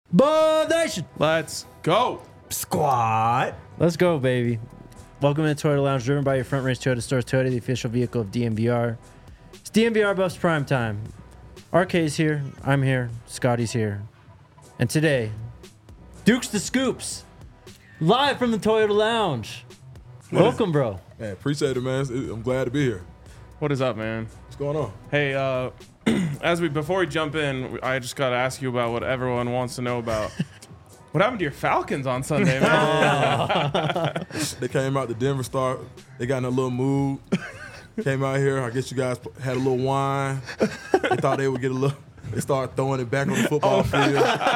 Buff Nation. Let's go. Squad. Let's go, baby. Welcome to Toyota Lounge, driven by your front range Toyota store. Toyota, the official vehicle of DNVR. It's DNVR Buffs Prime Time. RK's here. I'm here. Scotty's here. And today, Dukes the Scoops, live from the Toyota Lounge. Welcome, bro. Man, appreciate it, man. I'm glad to be here. What is up, man? What's going on? Hey, before we jump in, I just got to ask you about what everyone wants to know about. What happened to your Falcons on Sunday, man? They came out to Denver Star. They got in a little mood. Came out here. I guess you guys had a little wine. They thought they would get a little. They started throwing it back on the football field.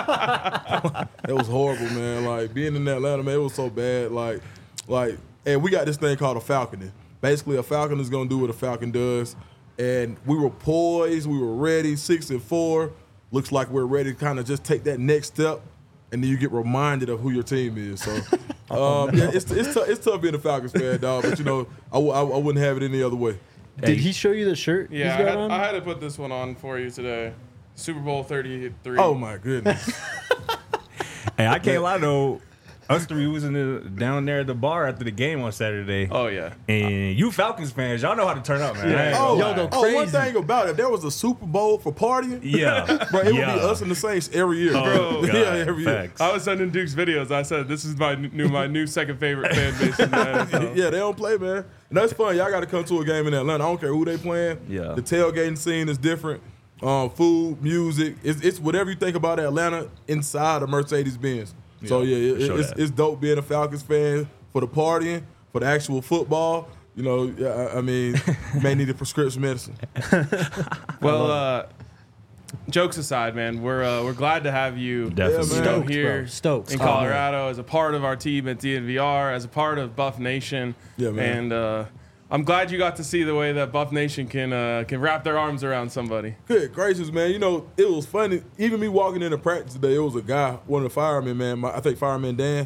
It was horrible, man. Like, being in Atlanta, man, it was so bad. And we got this thing called a falconing. Basically, a falcon is going to do what a falcon does. And we were poised. We were ready, 6-4. Looks like we're ready to kind of just take that next step. And then you get reminded of who your team is. So, yeah, it's tough being a Falcons fan, dog. But, you know, I wouldn't have it any other way. Did he show you the shirt he's got on? I had to put this one on for you today. Super Bowl 33. Oh, my goodness. Hey, I can't lie, though. Us three was down there at the bar after the game on Saturday. Oh, yeah. And you Falcons fans, y'all know how to turn up, man. Yeah. One thing about it, if there was a Super Bowl for partying, Yeah. bro, it would be us and the Saints every year. Bro. God, Yeah, every year. facts. I was sending Duke's videos. I said, this is my new second favorite fan base in the NFL. Yeah, they don't play, man. And that's fun. Y'all got to come to a game in Atlanta. I don't care who they playing. Yeah. The tailgating scene is different. Food, music. It's whatever you think about Atlanta inside a Mercedes-Benz. So, it's dope being a Falcons fan for the partying, for the actual football. You know, I mean, you may need a prescription medicine. Well, jokes aside, man, we're glad to have you Definitely. Yeah, man. here Stoked. in Colorado as a part of our team at DNVR, as a part of Buff Nation. Yeah, man. And I'm glad you got to see the way that Buff Nation can wrap their arms around somebody. Good gracious, man. You know, it was funny. Even me walking into practice today, it was a guy, one of the firemen, man. I think Fireman Dan.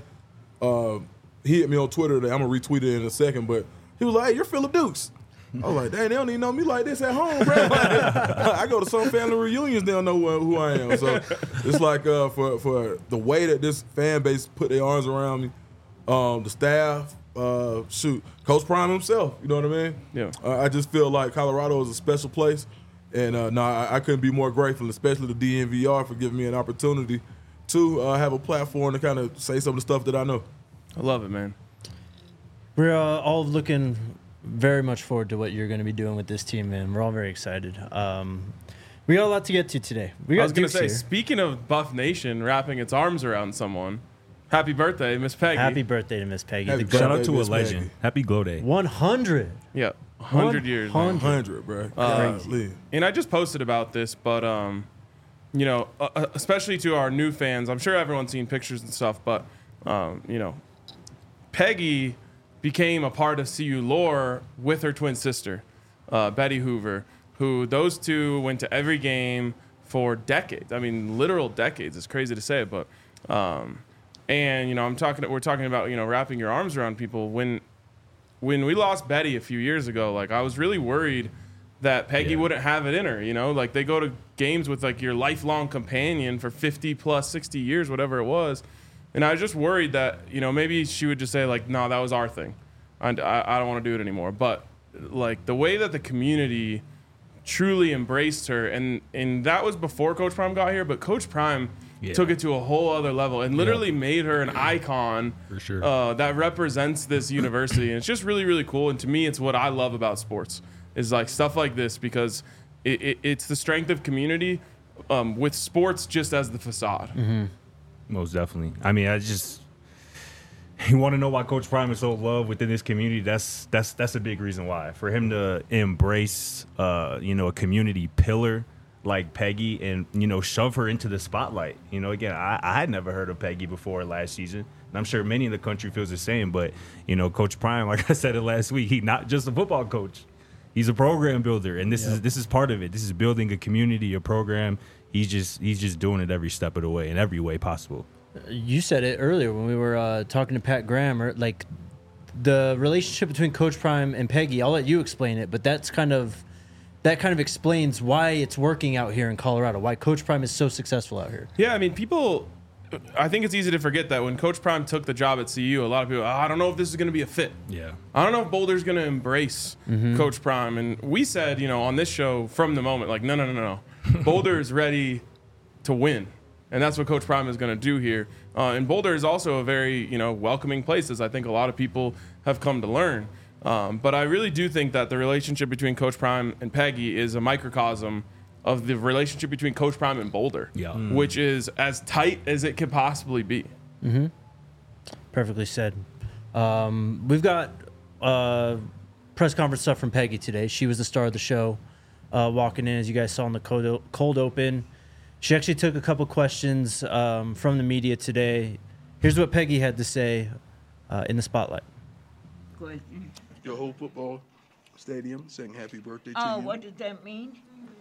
He hit me on Twitter today. I'm going to retweet it in a second. But he was like, hey, you're Phillip Dukes. I was like, dang, they don't even know me like this at home, bro. I go to some family reunions, they don't know who I am. So it's like for the way that this fan base put their arms around me, the staff, Coach Prime himself, you know what I mean? Yeah. I just feel like Colorado is a special place. And I couldn't be more grateful, especially the DNVR for giving me an opportunity to have a platform to kind of say some of the stuff that I know. I love it, man. We're all looking very much forward to what you're going to be doing with this team, man. We're all very excited. We got a lot to get to today. I was going to say, speaking of Buff Nation wrapping its arms around someone, happy birthday, Miss Peggy. Happy birthday to Miss Peggy. Happy The birthday. Shout out to a Miss legend. Maggie. Happy Glow Day. 100. Yeah, 100 years. man. 100, bro. Crazy. Golly. And I just posted about this, but you know, especially to our new fans, I'm sure everyone's seen pictures and stuff, but you know, Peggy became a part of CU lore with her twin sister, Betty Hoover, who those two went to every game for decades. I mean, literal decades. It's crazy to say, but and you know, we're talking about, you know, wrapping your arms around people. When we lost Betty a few years ago, like, I was really worried that Peggy wouldn't have it in her, you know? Like, they go to games with, like, your lifelong companion for 50 plus 60 years, whatever it was. And I was just worried that, you know, maybe she would just say, like, no, that was our thing. I don't want to do it anymore. But, like, the way that the community truly embraced her, and that was before Coach Prime got here, but Coach Prime took it to a whole other level and literally made her an icon For sure. that represents this university. And it's just really, really cool. And to me, it's what I love about sports, is like stuff like this, because it's the strength of community with sports just as the facade. Mm-hmm. Most definitely. I mean, you want to know why Coach Prime is so loved within this community? That's a big reason why. For him to embrace, you know, a community pillar like Peggy and, you know, shove her into the spotlight. You know, again, I had never heard of Peggy before last season, and I'm sure many in the country feels the same. But, you know, Coach Prime, like I said it last week, he's not just a football coach. He's a program builder, and this is part of it. This is building a community, a program. He's just doing it every step of the way, in every way possible. You said it earlier when we were talking to Pat Graham, like the relationship between Coach Prime and Peggy. I'll let you explain it, but that kind of explains why it's working out here in Colorado, why Coach Prime is so successful out here. Yeah, I mean, people I think it's easy to forget that when Coach Prime took the job at CU, a lot of people, I don't know if this is going to be a fit. Yeah. I don't know if Boulder's going to embrace Coach Prime. And we said, on this show from the moment, like, no. Boulder is ready to win. And that's what Coach Prime is going to do here. And Boulder is also a very, welcoming place, as I think a lot of people have come to learn. But I really do think that the relationship between Coach Prime and Peggy is a microcosm of the relationship between Coach Prime and Boulder, which is as tight as it can possibly be. Perfectly said. We've got press conference stuff from Peggy today. She was the star of the show, walking in, as you guys saw in the cold open. She actually took a couple questions from the media today. Here's what Peggy had to say in the spotlight. Question. Your whole football stadium saying happy birthday to Oh, you. what does that mean?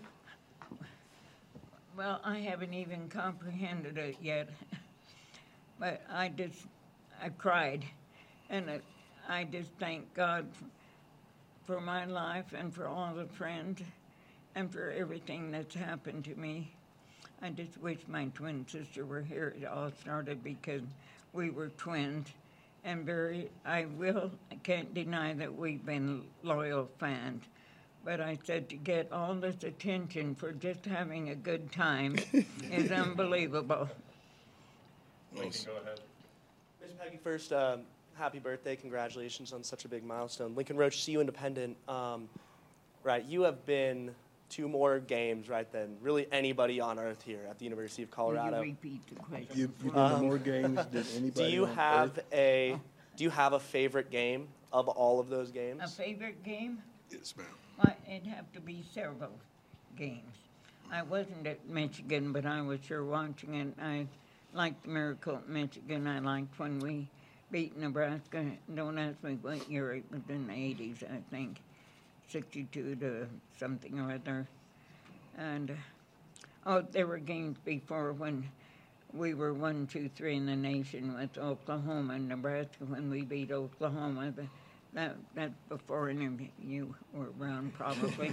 Well, I haven't even comprehended it yet. But I cried. And I just thank God for my life and for all the friends and for everything that's happened to me. I just wish my twin sister were here. It all started because we were twins. And I can't deny that we've been loyal fans. But I said to get all this attention for just having a good time is unbelievable. Lincoln, go ahead. Miss Peggy, first, happy birthday. Congratulations on such a big milestone. Lincoln Roach, CU Independent. Right, you have been 2 more games, right, than really anybody on earth here at the University of Colorado. Will you repeat the question? You've been to more games than anybody Do you on have earth? do you have a favorite game of all of those games? A favorite game? Yes, ma'am. Well, it'd have to be several games. I wasn't at Michigan, but I was sure watching it. I liked the miracle at Michigan. I liked when we beat Nebraska. Don't ask me what year. It was in the 80s, I think. 62 to something or other. And, there were games before when we were 1, 2, 3 in the nation with Oklahoma and Nebraska when we beat Oklahoma. That's before any of you were around, probably.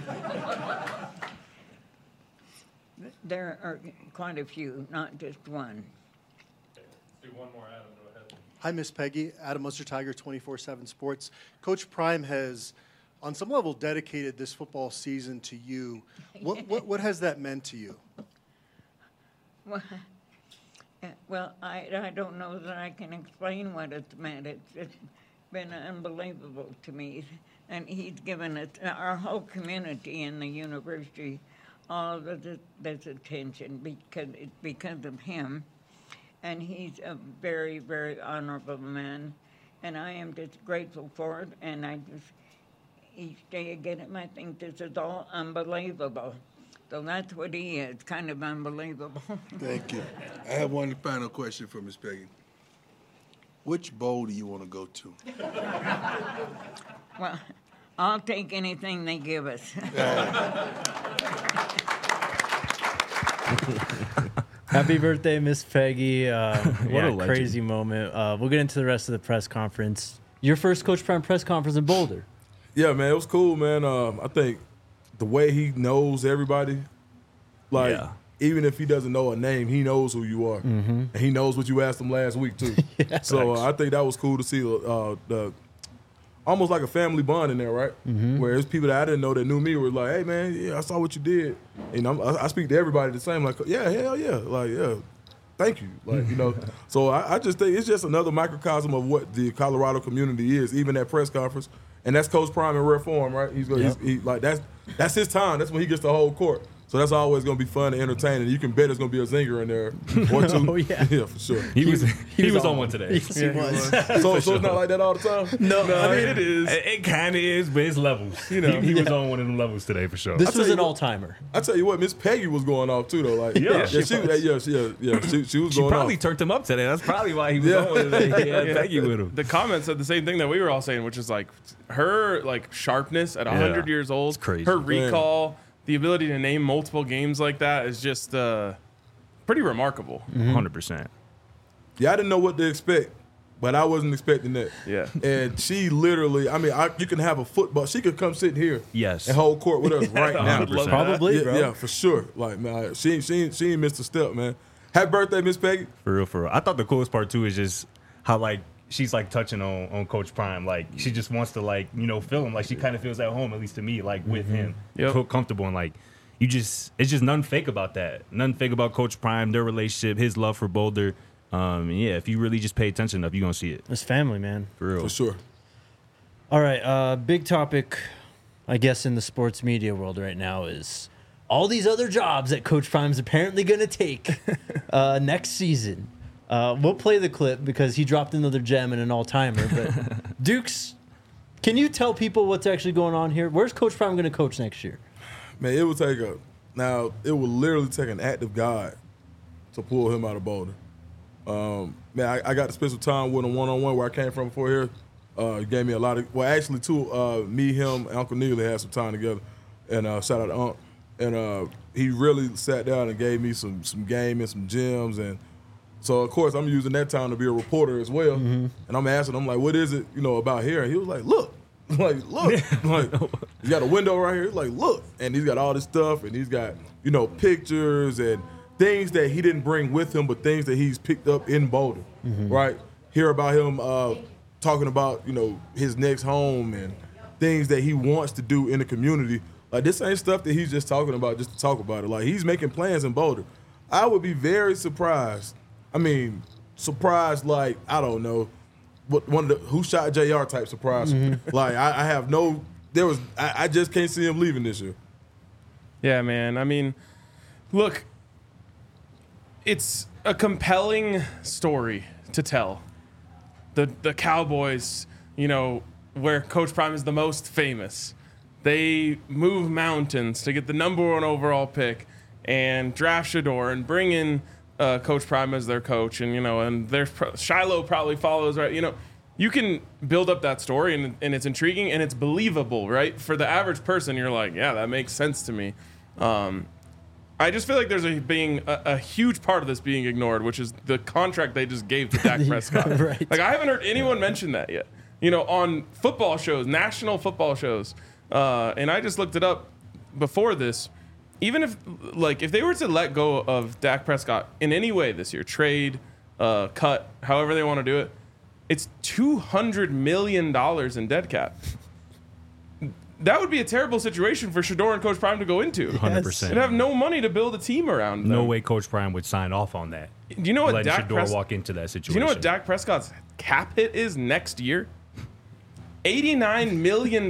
There are quite a few, not just one. Do one more, Adam. Go ahead. Hi, Miss Peggy. Adam Munster Tiger, 24/7 Sports. Coach Prime has, on some level, dedicated this football season to you. What has that meant to you? Well, I don't know that I can explain what it's meant. It's been unbelievable to me. And he's given it, our whole community in the university, all of this attention because of him. And he's a very, very honorable man. And I am just grateful for it. And each day I get him, I think this is all unbelievable. So that's what he is, kind of unbelievable. Thank you. I have one final question for Miss Peggy. Which bowl do you want to go to? Well, I'll take anything they give us. Happy birthday, Miss Peggy. What a a legend. crazy moment. We'll get into the rest of the press conference. Your first Coach Prime press conference in Boulder. Yeah, man, it was cool, man. I think the way he knows everybody, even if he doesn't know a name, he knows who you are, and he knows what you asked him last week too. So I think that was cool to see the almost like a family bond in there, right? Where there's people that I didn't know that knew me were like, "Hey, man, yeah, I saw what you did," and I speak to everybody the same, like, "Yeah, hell yeah, like yeah." Thank you. Like, so I just think it's just another microcosm of what the Colorado community is, even at press conference. And that's Coach Prime in rare form, right? That's his time. That's when he gets the whole court. So that's always going to be fun and entertaining. You can bet there's going to be a zinger in there or two. Oh, yeah. Yeah, for sure. He was on one today. Yes, he was. So it's not like that all the time? No, I mean, it is. It kind of is, but it's levels. He was on one of them levels today for sure. This was you an what- all-timer. I tell you what, Miss Peggy was going off too, though. Like, she was She going probably off. turned him up today. That's probably why he was on today. He had Peggy with him. The comments said the same thing that we were all saying, which is like her sharpness at 100 years old, It's crazy. her recall, the ability to name multiple games like that is just pretty remarkable. 100%. Yeah, I didn't know what to expect, but I wasn't expecting that. Yeah. And she literally, you can have a football. She could come sit here Yes. and hold court with us right now. 100%. Probably, bro. Yeah, for sure. Like, man, she ain't missed a step, man. Happy birthday, Miss Peggy. For real, for real. I thought the coolest part too is just how like she's like touching on Coach Prime. Like she just wants to like, you know, feel him. Like she kind of feels at home, at least to me, like with him. Yep. Feel comfortable and like it's just nothing fake about that. Nothing fake about Coach Prime, their relationship, his love for Boulder. Yeah, if you really just pay attention enough, you're gonna see it. It's family, man. For real. For sure. All right, big topic, I guess, in the sports media world right now is all these other jobs that Coach Prime's apparently going to take next season. We'll play the clip because he dropped another gem and an all-timer. But Dukes, can you tell people what's actually going on here? Where's Coach Prime going to coach next year? Man, it will literally take an act of God to pull him out of Boulder. Man, I got to spend some time with him one-on-one where I came from before here. He gave me a lot of, well, actually, me, him, and Uncle Neely had some time together. And shout out to Unc. And he really sat down and gave me some game and some gems. And so, of course, I'm using that time to be a reporter as well. And I'm asking him, like, what is it, about here? And he was like, look. Like, look. Like, he's got a window right here. He's like, look. And he's got all this stuff. And he's got, pictures and things that he didn't bring with him, but things that he's picked up in Boulder, right? Hear about him talking about, his next home and things that he wants to do in the community. Like, this ain't stuff that he's just talking about just to talk about it. Like, he's making plans in Boulder. I would be very surprised. I mean, surprised like, I don't know, what one of the who shot JR type surprise. Like, I have no, I just can't see him leaving this year. Yeah, man. I mean, look, it's a compelling story to tell. The Cowboys, where Coach Prime is the most famous. They move mountains to get the number 1 overall pick and draft Shedeur and bring in Coach Prime as their coach. And, and there's Shiloh probably follows, right? You can build up that story and it's intriguing and it's believable, right? For the average person, you're like, yeah, that makes sense to me. I just feel like there's a huge part of this being ignored, which is the contract they just gave to Dak Prescott. Right. Like, I haven't heard anyone mention that yet. On football shows, national football shows, and I just looked it up before this. Even if they were to let go of Dak Prescott in any way this year, trade, cut, however they want to do it, it's $200 million in dead cap. That would be a terrible situation for Shedeur and Coach Prime to go into. 100%. They'd have no money to build a team around them. No way Coach Prime would sign off on that. Do you know what Shedeur walk into that situation? Do you know what Dak Prescott's cap hit is next year? $89 million.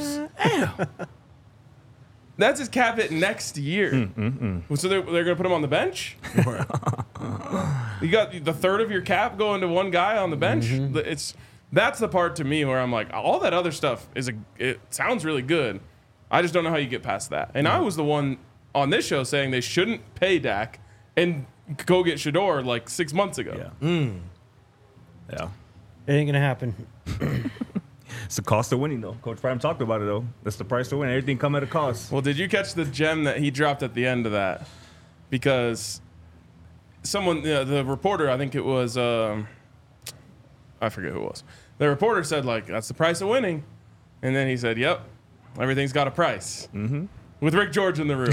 That's his cap hit next year. So they're going to put him on the bench? You got the third of your cap going to one guy on the bench? That's the part to me where I'm like, all that other stuff it sounds really good. I just don't know how you get past that. And I was the one on this show saying they shouldn't pay Dak and go get Shedeur like 6 months ago. Yeah. It ain't going to happen. It's the cost of winning, though. Coach Prime talked about it, though. That's the price to win. Everything come at a cost. Well, did you catch the gem that he dropped at the end of that? Because someone, the reporter, I think it was, I forget who it was. The reporter said, like, that's the price of winning. And then he said, yep, everything's got a price. With Rick George in the room.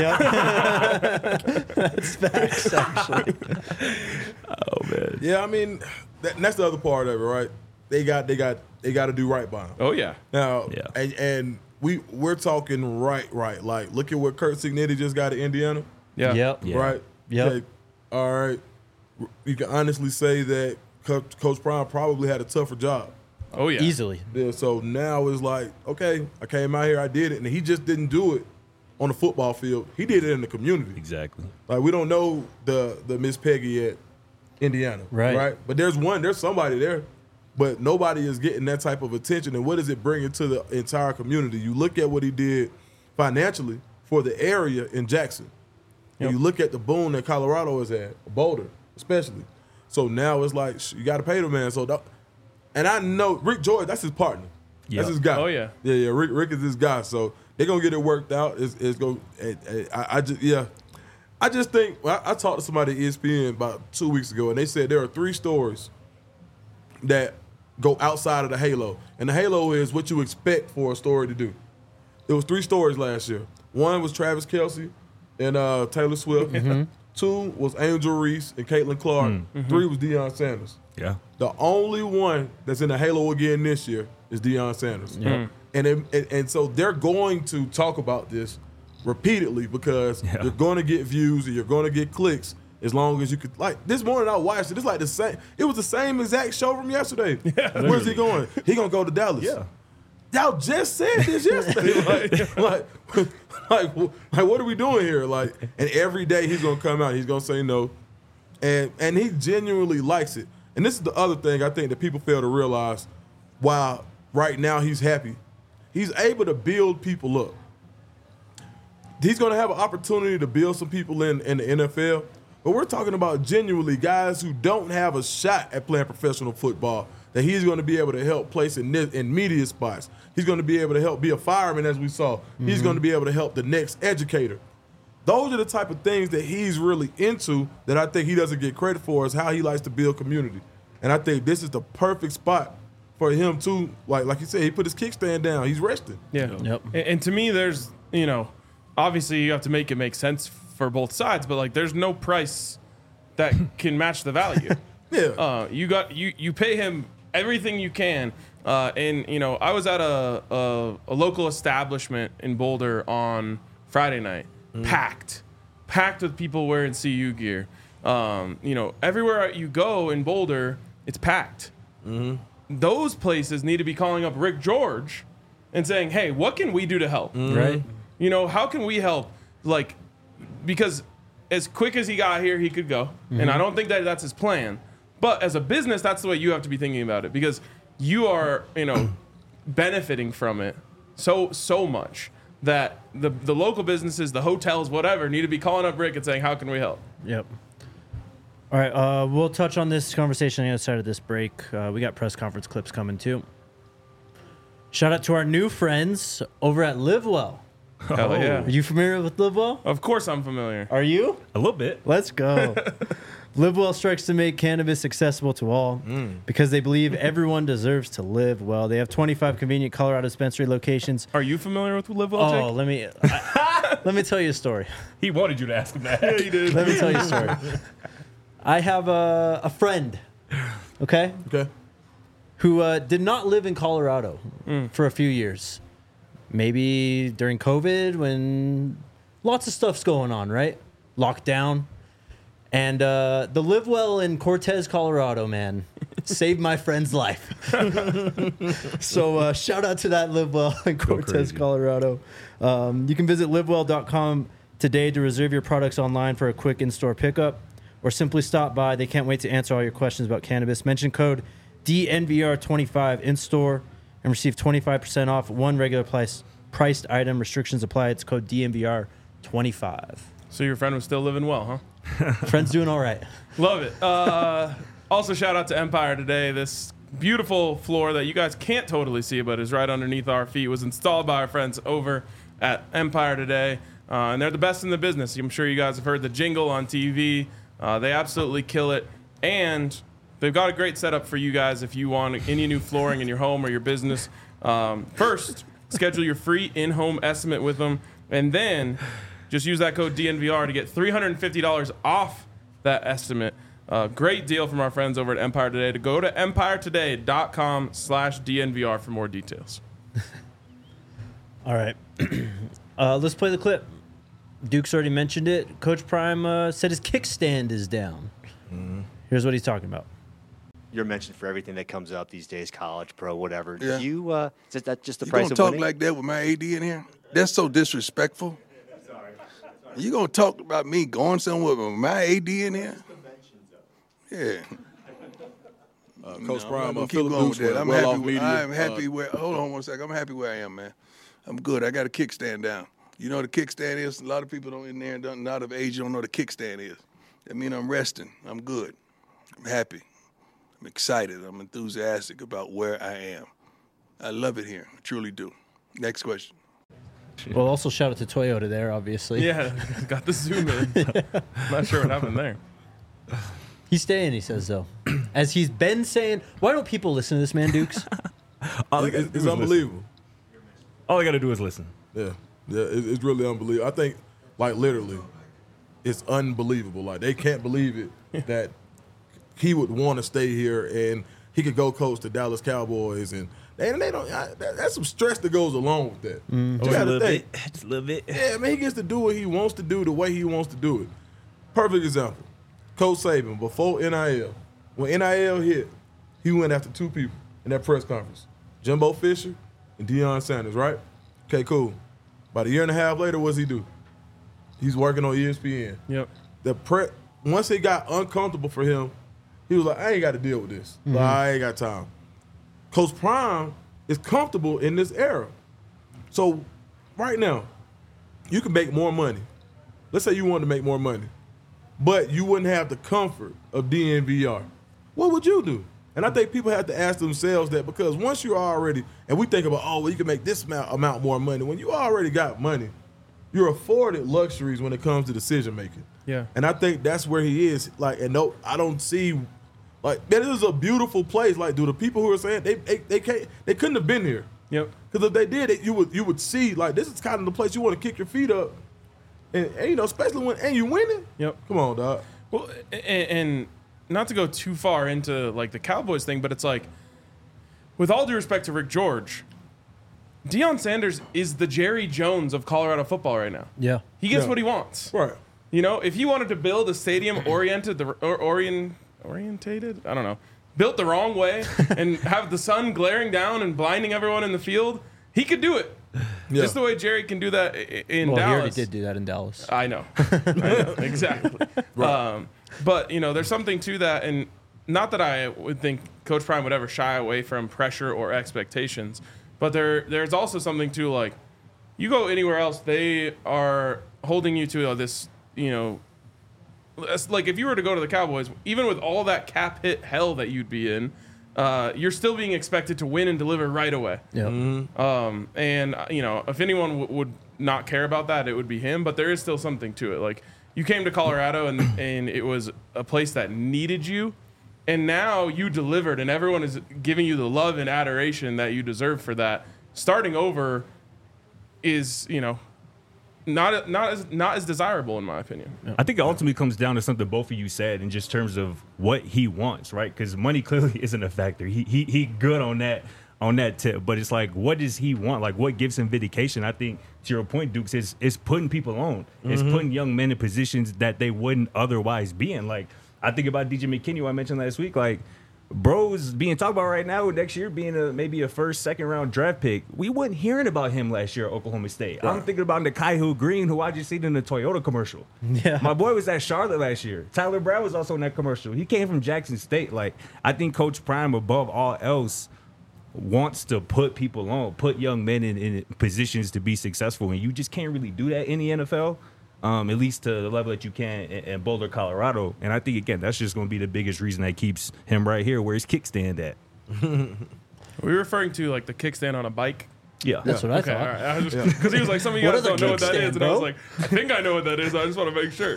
That's facts, actually. Oh, man. Yeah, I mean, that's the other part of it, right? They got to do right by him. Oh, yeah. Now, Yeah. and we're talking right. Like, look at what Kurt Signetti just got at Indiana. Yeah. Yep. Yeah. Right? Yep. Okay, all right. You can honestly say that Coach Prime probably had a tougher job. Oh, yeah. Easily. Yeah, so now it's like, okay, I came out here, I did it. And he just didn't do it on the football field. He did it in the community. Exactly. Like, we don't know the Miss Peggy at Indiana. Right. But there's somebody there. But nobody is getting that type of attention. And what does it bring into the entire community? You look at what he did financially for the area in Jackson. And you look at the boom that Colorado has had, Boulder especially. So now it's like, you got to pay the man. And I know Rick George, that's his partner. Yep. That's his guy. Oh, yeah. Yeah. Rick is his guy. So they're going to get it worked out. I just think, I talked to somebody at ESPN about 2 weeks ago, and they said there are 3 stories that go outside of the halo. And the halo is what you expect for a story to do. There was 3 stories last year. One was Travis Kelce and Taylor Swift. 2 was Angel Reese and Caitlin Clark. 3 was Deion Sanders. Yeah. The only one that's in the halo again this year is Deion Sanders. And so they're going to talk about this repeatedly because you're going to get views and you're going to get clicks as long as you could. Like this morning I watched it. It's like the same. It was the same exact show from yesterday. Where's he going? He going to go to Dallas. Yeah. Y'all just said this yesterday. like, what are we doing here? Like, and every day he's going to come out. He's going to say no. And he genuinely likes it. And this is the other thing I think that people fail to realize. While right now he's happy, he's able to build people up. He's going to have an opportunity to build some people in the NFL. But we're talking about genuinely guys who don't have a shot at playing professional football that he's going to be able to help place in media spots. He's going to be able to help be a fireman, as we saw. He's going to be able to help the next educator. Those are the type of things that he's really into that I think he doesn't get credit for is how he likes to build community. And I think this is the perfect spot for him to, like you said, he put his kickstand down. He's resting. Yeah. Yep. And to me, there's, obviously you have to make it make sense for both sides, but like there's no price that can match the value. Yeah. You pay him everything you can. And I was at a local establishment in Boulder on Friday night, packed with people wearing CU gear. Everywhere you go in Boulder, it's packed. Those places need to be calling up Rick George and saying, hey, what can we do to help? Right. How can we help? Like, because as quick as he got here, he could go. And I don't think that that's his plan. But as a business, that's the way you have to be thinking about it because you are, benefiting from it so much that the local businesses, the hotels, whatever, need to be calling up Rick and saying, how can we help? Yep. All right, we'll touch on this conversation on the other side of this break. We got press conference clips coming too. Shout out to our new friends over at LiveWell. Hell yeah. Are you familiar with LiveWell? Of course I'm familiar. Are you? A little bit. Let's go. LiveWell strikes to make cannabis accessible to all because they believe everyone deserves to live well. They have 25 convenient Colorado dispensary locations. Are you familiar with LiveWell, Jake? Let me tell you a story. He wanted you to ask him that. Yeah, he did. Let me tell you a story. I have a friend, okay, who did not live in Colorado for a few years. Maybe during COVID when lots of stuff's going on, right? Lockdown. And the LiveWell in Cortez, Colorado, man, saved my friend's life. So shout out to that LiveWell in Cortez, Colorado. You can visit livewell.com today to reserve your products online for a quick in-store pickup or simply stop by. They can't wait to answer all your questions about cannabis. Mention code DNVR25 in-store and receive 25% off one regular priced item. Restrictions apply. It's code DNVR25. So your friend was still living well, huh? Friend's doing all right. Love it. Also, shout out to Empire Today. This beautiful floor that you guys can't totally see, but is right underneath our feet, was installed by our friends over at Empire Today. And they're the best in the business. I'm sure you guys have heard the jingle on TV. They absolutely kill it. And they've got a great setup for you guys if you want any new flooring in your home or your business. First, schedule your free in-home estimate with them. And then just use that code DNVR to get $350 off that estimate. Great deal from our friends over at Empire Today. To go to empiretoday.com/DNVR for more details. All right. Let's play the clip. Duke's already mentioned it. Coach Prime said his kickstand is down. Here's what he's talking about. You're mentioned for everything that comes up these days, college, pro, whatever. Yeah. Is that just the You price gonna of talk winning? like that with my AD in here? That's so disrespectful. You gonna talk about me going somewhere with my AD in here? Yeah. Coach Prime, I'm Philip going with Dukes that. went well off media. I'm happy where. Hold on one second. I'm happy where I am, man. I'm good. I got a kickstand down. You know what a kickstand is? A lot of people don't in there, not of age, don't know what a kickstand is. That means I'm resting. I'm good. I'm happy. I'm excited. I'm enthusiastic about where I am. I love it here. I truly do. Next question. Well, also shout out to Toyota there, obviously. Yeah, got the zoom in. Not sure what happened there. He's staying, he says, though. As he's been saying, why don't people listen to this man, Dukes? It's unbelievable. All I got to do is listen. Yeah, it's really unbelievable. I think, like, literally, it's unbelievable. Like, they can't believe it that he would want to stay here and he could go coach the Dallas Cowboys. And they don't. That's some stress that goes along with that. You Just a gotta little think. bit. Just a little bit. Yeah, man, he gets to do what he wants to do the way he wants to do it. Perfect example. Coach Saban, before NIL, when NIL hit, he went after two people in that press conference. Jimbo Fisher and Deion Sanders, right? Okay, cool. About a year and a half later, what's he do? He's working on ESPN. Yep. Once it got uncomfortable for him, he was like, I ain't got to deal with this. Like, I ain't got time. Coach Prime is comfortable in this era. So right now, you can make more money. Let's say you wanted to make more money, but you wouldn't have the comfort of DNVR. What would you do? And I think people have to ask themselves that, because once you're already, and we think about, oh, well, you can make this amount more money. When you already got money, you're afforded luxuries when it comes to decision making. Yeah. And I think that's where he is. Like, and no, I don't see, like, man, this is a beautiful place. Like, do the people who are saying they couldn't have been here? Yep. Because if they did, you would see, like, this is kind of the place you want to kick your feet up, and you know, especially when you winning. Yep. Come on, dog. Well, and not to go too far into like the Cowboys thing, but it's like, with all due respect to Rick George, Deion Sanders is the Jerry Jones of Colorado football right now. Yeah. He gets Yeah. what he wants. Right. You know, if he wanted to build a stadium orientated, I don't know, built the wrong way and have the sun glaring down and blinding everyone in the field, he could do it. Yeah. Just the way Jerry can do that in Well, he already Dallas. did do that in Dallas. I know. Exactly. But, you know, there's something to that. And not that I would think Coach Prime would ever shy away from pressure or expectations, but there's also something to, like, you go anywhere else, they are holding you to this, you know, like if you were to go to the Cowboys, even with all that cap hit hell that you'd be in, you're still being expected to win and deliver right away. Yeah. And, you know, if anyone would not care about that, it would be him. But there is still something to it. Like, you came to Colorado and it was a place that needed you. And now you delivered and everyone is giving you the love and adoration that you deserve for that. Starting over is, you know, not as desirable in my opinion. I think it ultimately comes down to something both of you said in just terms of what he wants, right? Because money clearly isn't a factor. He good on that tip, but it's like, what does he want? Like, what gives him vindication? I think to your point, Dukes, is putting people on. It's putting young men in positions that they wouldn't otherwise be in. Like, I think about DJ McKinney, who I mentioned last week. Like, bro's being talked about right now, next year being maybe a first, second round draft pick. We wasn't hearing about him last year at Oklahoma State. Right. I'm thinking about Nikhai Green, who I just seen in the Toyota commercial. Yeah. My boy was at Charlotte last year. Tyler Brown was also in that commercial. He came from Jackson State. Like, I think Coach Prime, above all else, wants to put people on, put young men in positions to be successful. And you just can't really do that in the NFL. At least to the level that you can in Boulder, Colorado. And I think, again, that's just going to be the biggest reason that keeps him right here where his kickstand at. Are we referring to, like, the kickstand on a bike? Yeah. That's what I Okay, thought. all right. Because he was like, some of you What guys is a don't know what that kickstand, is. And I was bro? like, I think I know what that is. I just want to make sure.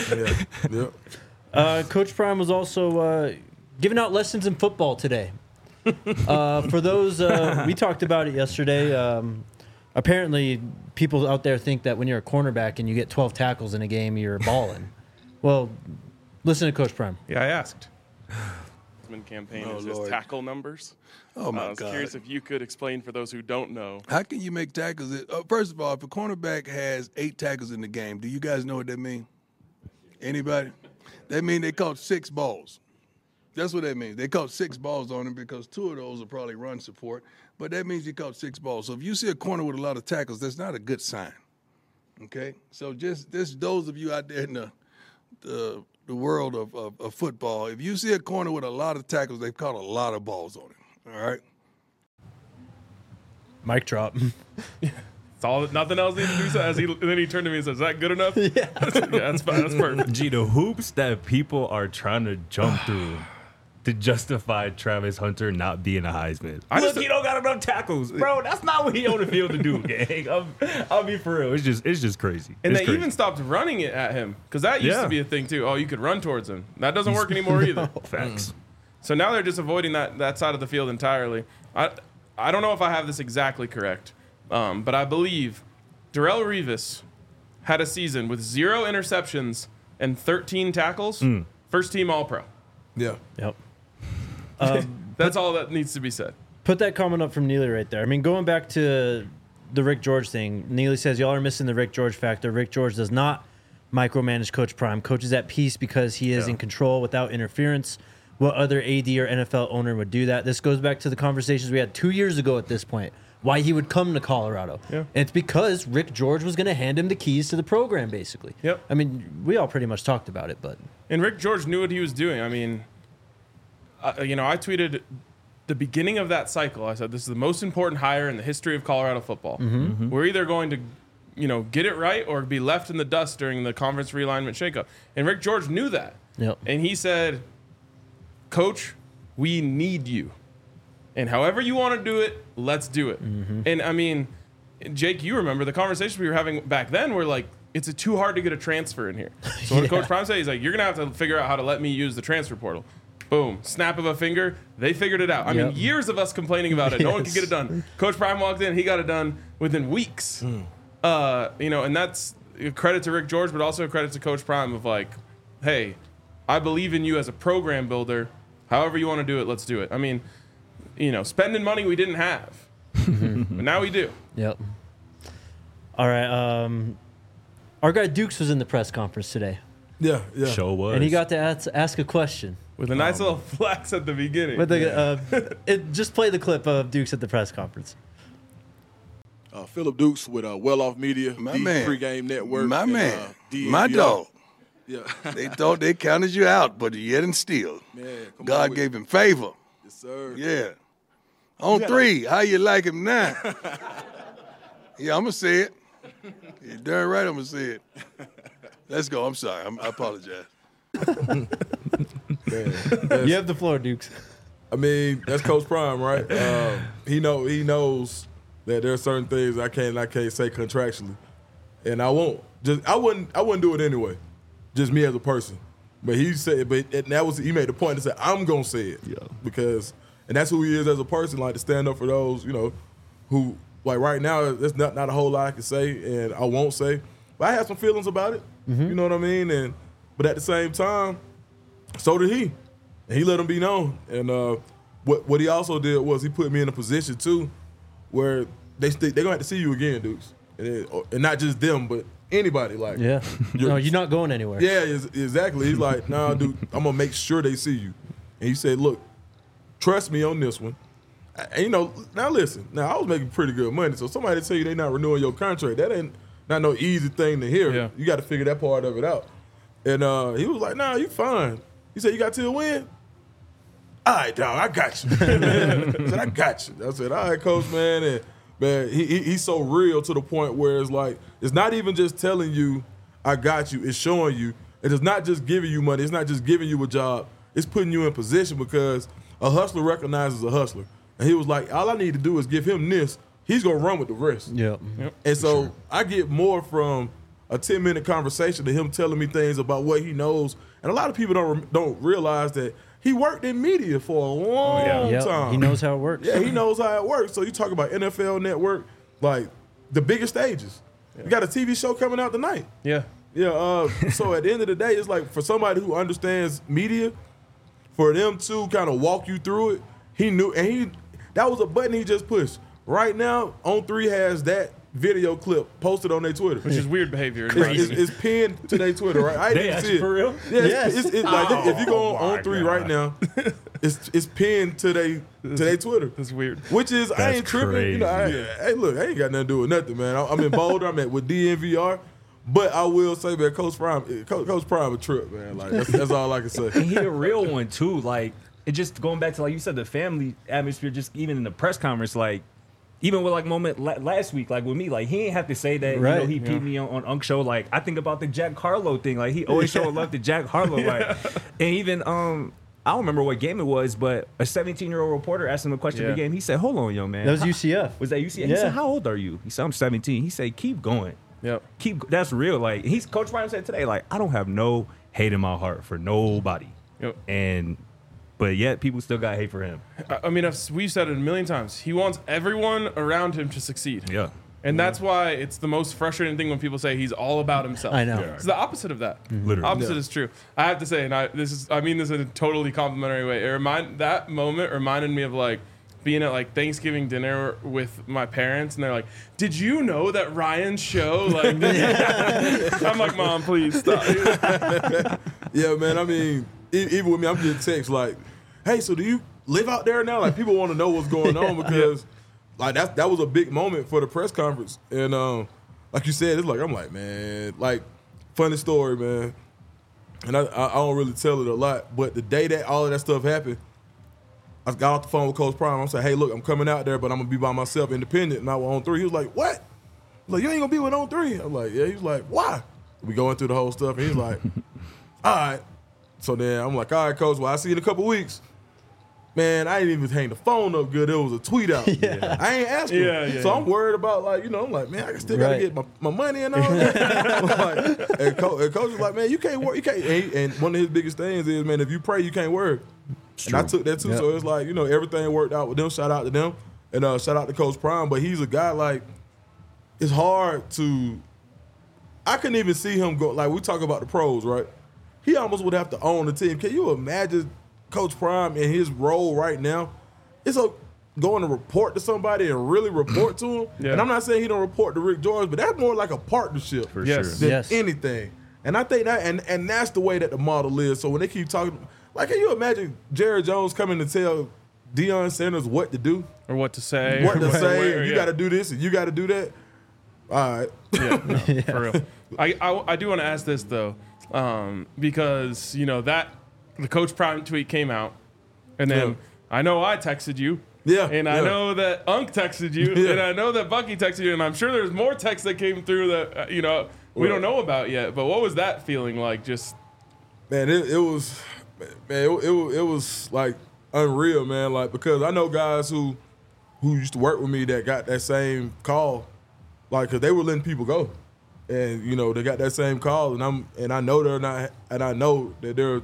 Yeah. Coach Prime was also giving out lessons in football today. For those, we talked about it yesterday. Apparently, people out there think that when you're a cornerback and you get 12 tackles in a game, you're balling. Well, listen to Coach Prime. Yeah, I asked. Campaign Oh, is his Lord. tackle numbers. Oh, my I was God. curious if you could explain for those who don't know. How can you make tackles? First of all, if a cornerback has 8 tackles in the game, do you guys know what that means? Anybody? That means they caught 6 balls. That's what that means. They caught 6 balls on him because 2 of those are probably run support, but that means he caught 6 balls. So if you see a corner with a lot of tackles, that's not a good sign. Okay? So just those of you out there in the world of football, if you see a corner with a lot of tackles, they've caught a lot of balls on him. All right? Mic drop. It's all, nothing else needed to do. So and then he turned to me and said, "Is that good enough?" Yeah, that's fine. That's perfect. Gee, the hoops that people are trying to jump through to justify Travis Hunter not being a Heisman. Look, he don't got enough tackles, bro. That's not what he on the field to do, gang. I'll be for real. It's just crazy. And It's they crazy. even stopped running it at him because that used to be a thing too. Oh, you could run towards him. That doesn't work anymore either. Facts. So now they're just avoiding that side of the field entirely. I don't know if I have this exactly correct, but I believe Darrelle Revis had a season with 0 interceptions and 13 tackles. First team All-Pro. Yeah. Yep. That's all that needs to be said. Put that comment up from Neely right there. I mean, going back to the Rick George thing, Neely says, y'all are missing the Rick George factor. Rick George does not micromanage Coach Prime. Coach is at peace because he is in control without interference. What other AD or NFL owner would do that? This goes back to the conversations we had 2 years ago at this point, why he would come to Colorado. Yeah. And it's because Rick George was going to hand him the keys to the program, basically. Yep. I mean, we all pretty much talked about it, but... And Rick George knew what he was doing. I mean, I tweeted the beginning of that cycle. I said, this is the most important hire in the history of Colorado football. We're either going to, get it right or be left in the dust during the conference realignment shakeup. And Rick George knew that. Yep. And he said, Coach, we need you. And however you want to do it, let's do it. And I mean, Jake, you remember the conversation we were having back then where like, it's too hard to get a transfer in here. So what did Coach Prime say? He's like, you're going to have to figure out how to let me use the transfer portal. Boom. Snap of a finger. They figured it out. I mean, years of us complaining about it. No one could get it done. Coach Prime walked in. He got it done within weeks. And that's a credit to Rick George, but also a credit to Coach Prime of like, hey, I believe in you as a program builder. However you want to do it, let's do it. I mean, spending money we didn't have. But now we do. Yep. All right. Our guy Dukes was in the press conference today. Yeah. Show was. And he got to ask a question. With a nice little flex at the beginning. With just play the clip of Dukes at the press conference. Philip Dukes with Well Off Media, My man. Pregame Network. My and, man. DNVR. My dog. Yeah. They thought they counted you out, but yet and still. Man, come on God with gave him favor. Yes, sir. Yeah. On three, how you like him now? Yeah, I'm going to say it. You're darn right I'm going to say it. Let's go. I'm sorry. I apologize. You have the floor, Dukes. I mean, that's Coach Prime, right? He knows that there are certain things I can't say contractually, and I wouldn't do it anyway. Just me as a person. But he said, he made the point to say I'm gonna say it, because that's who he is as a person, like to stand up for those, who like right now there's not a whole lot I can say and I won't say, but I have some feelings about it. You know what I mean? But at the same time, so did he. And he let him be known. And what he also did was he put me in a position too, where they're gonna have to see you again, Dukes, and not just them, but anybody. Like, no, you're not going anywhere. Yeah, exactly. He's like, nah, dude, I'm gonna make sure they see you. And he said, look, trust me on this one. And, now listen. Now I was making pretty good money, so somebody tell you they not renewing your contract, that ain't not no easy thing to hear. Yeah. You got to figure that part of it out. And he was like, nah, you fine. He said, you got till when? All right, dog, I got you. I said, I got you. I said, all right, Coach, man. And man, he's so real to the point where it's like, it's not even just telling you, I got you. It's showing you. It is not just giving you money. It's not just giving you a job. It's putting you in position, because a hustler recognizes a hustler. And he was like, all I need to do is give him this. He's going to run with the rest. Yep. And so I get more from a 10-minute conversation to him telling me things about what he knows. And a lot of people don't realize that he worked in media for a long time. He knows how it works. Yeah, he knows how it works. So you talk about NFL Network, like the biggest stages. You got a TV show coming out tonight. Yeah. Yeah. So at the end of the day, it's like for somebody who understands media, for them to kind of walk you through it, he knew, and that was a button he just pushed. Right now, On3 has that video clip posted on their Twitter, Which is weird behavior. It's pinned to their Twitter, right? I didn't see it for real? Yeah, it's like if you go on On3 right now, it's pinned to their Twitter. That's weird. Which is I That's ain't tripping. crazy. Hey, look, I ain't got nothing to do with nothing, man. I'm in Boulder. I'm with DNVR. But I will say, man, Coach Prime a trip, man. Like that's all I can say. And he a real one too. Like, it just going back to, like you said, the family atmosphere. Just even in the press conference, like even with like moment last week, like with me, like he ain't have to say that. Right. He peed me on Unk Show. Like I think about the Jack Harlow thing. Like he always showed love to Jack Harlow. Like, and even I don't remember what game it was, but a 17-year-old reporter asked him a question of the game. He said, "Hold on, young man." That was UCF. Was that UCF? Yeah. He said, "How old are you?" He said, "I'm 17." He said, "Keep going." Yep. That's real. Like Coach Prime said today, like I don't have no hate in my heart for nobody. Yep. But yet people still got hate for him. I mean, we've said it a million times. He wants everyone around him to succeed. Yeah. And that's why it's the most frustrating thing when people say he's all about himself. I know. It's the opposite of that. Literally. Opposite is true. I have to say, and I mean this in a totally complimentary way. That moment reminded me of like being at like Thanksgiving dinner with my parents, and they're like, "Did you know that Ryan's show?" Like, I'm like, "Mom, please stop." Yeah, man. I mean, even with me, I'm getting texts like, "Hey, so do you live out there now?" Like, people want to know what's going on because. Like that was a big moment for the press conference, and like you said, it's like I'm like, man, like funny story, man, and I don't really tell it a lot, but the day that all of that stuff happened, I got off the phone with Coach Prime. I said, hey, look, I'm coming out there, but I'm gonna be by myself, independent, not with On 3. He was like, what? I was like, you ain't gonna be with On 3? I'm like, yeah. He was like, why? We going through the whole stuff, and he's like, all right. So then I'm like, all right, Coach. Well, I see you in a couple weeks. Man, I didn't even hang the phone up good. There was a tweet out. Yeah. I ain't asking. Yeah, so I'm worried about, like, I'm like, man, I still got to get my money and all that. Like, and Coach was like, man, you can't work. You can't. And one of his biggest things is, man, if you pray, you can't work. And I took that too. Yep. So it's like, everything worked out with them. Shout out to them. And shout out to Coach Prime. But he's a guy, like, it's hard to – I couldn't even see him go – like, we talk about the pros, right? He almost would have to own the team. Can you imagine – Coach Prime in his role right now, it's going to report to somebody and really report to him. Yeah. And I'm not saying he don't report to Rick George, but that's more like a partnership for sure than anything. And I think that, and that's the way that the model is. So when they keep talking, like, can you imagine Jerry Jones coming to tell Deion Sanders what to do or what to say? What to say? You got to do this and you got to do that. All right. Yeah, no, for real. I do want to ask this though, because that. The Coach Prime tweet came out, and then I know I texted you. Yeah. And I know that Unc texted you, and I know that Bucky texted you, and I'm sure there's more texts that came through that, we don't know about yet. But what was that feeling like? Just man, it was like unreal, man. Like, because I know guys who used to work with me that got that same call, like, because they were letting people go. And, they got that same call, and I know they're not, and I know that they're,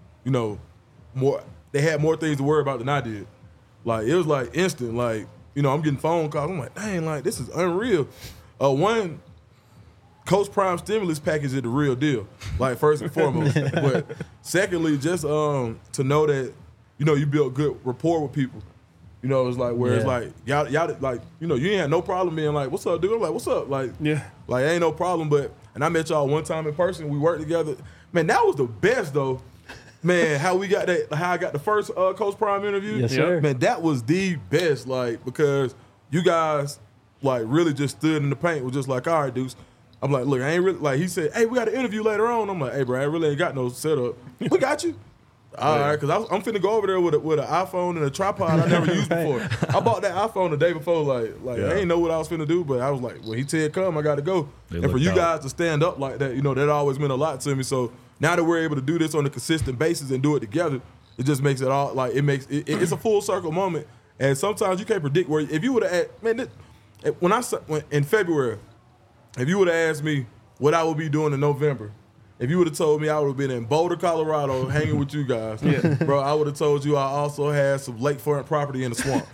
more. They had more things to worry about than I did. Like, it was like instant. Like, I'm getting phone calls. I'm like, dang, like, this is unreal. One, Coach Prime stimulus package is the real deal. Like, first and foremost. But secondly, just to know that you build good rapport with people. It's like where it's like y'all like you ain't had no problem being like, what's up, dude? I'm like, what's up? Like, like ain't no problem. And I met y'all one time in person. We worked together. Man, that was the best though. Man, how I got the first Coach Prime interview. Yes, sir. Man, that was the best, like, because you guys, like, really just stood in the paint, was just like, all right, dudes. I'm like, look, I ain't really, like, he said, hey, we got an interview later on. I'm like, hey, bro, I really ain't got no setup. We got you. All right, because I'm finna go over there with an iPhone and a tripod I never used before. I bought that iPhone the day before, like I ain't know what I was finna do, but I was like, when he said come, I got to go. And for you guys to stand up like that, that always meant a lot to me. So now that we're able to do this on a consistent basis and do it together, it just makes it all, like, it's a full circle moment. And sometimes you can't predict where, if you would have, man, when in February, if you would have asked me what I would be doing in November, if you would have told me I would have been in Boulder, Colorado, hanging with you guys, bro, I would have told you I also had some lakefront property in the swamp.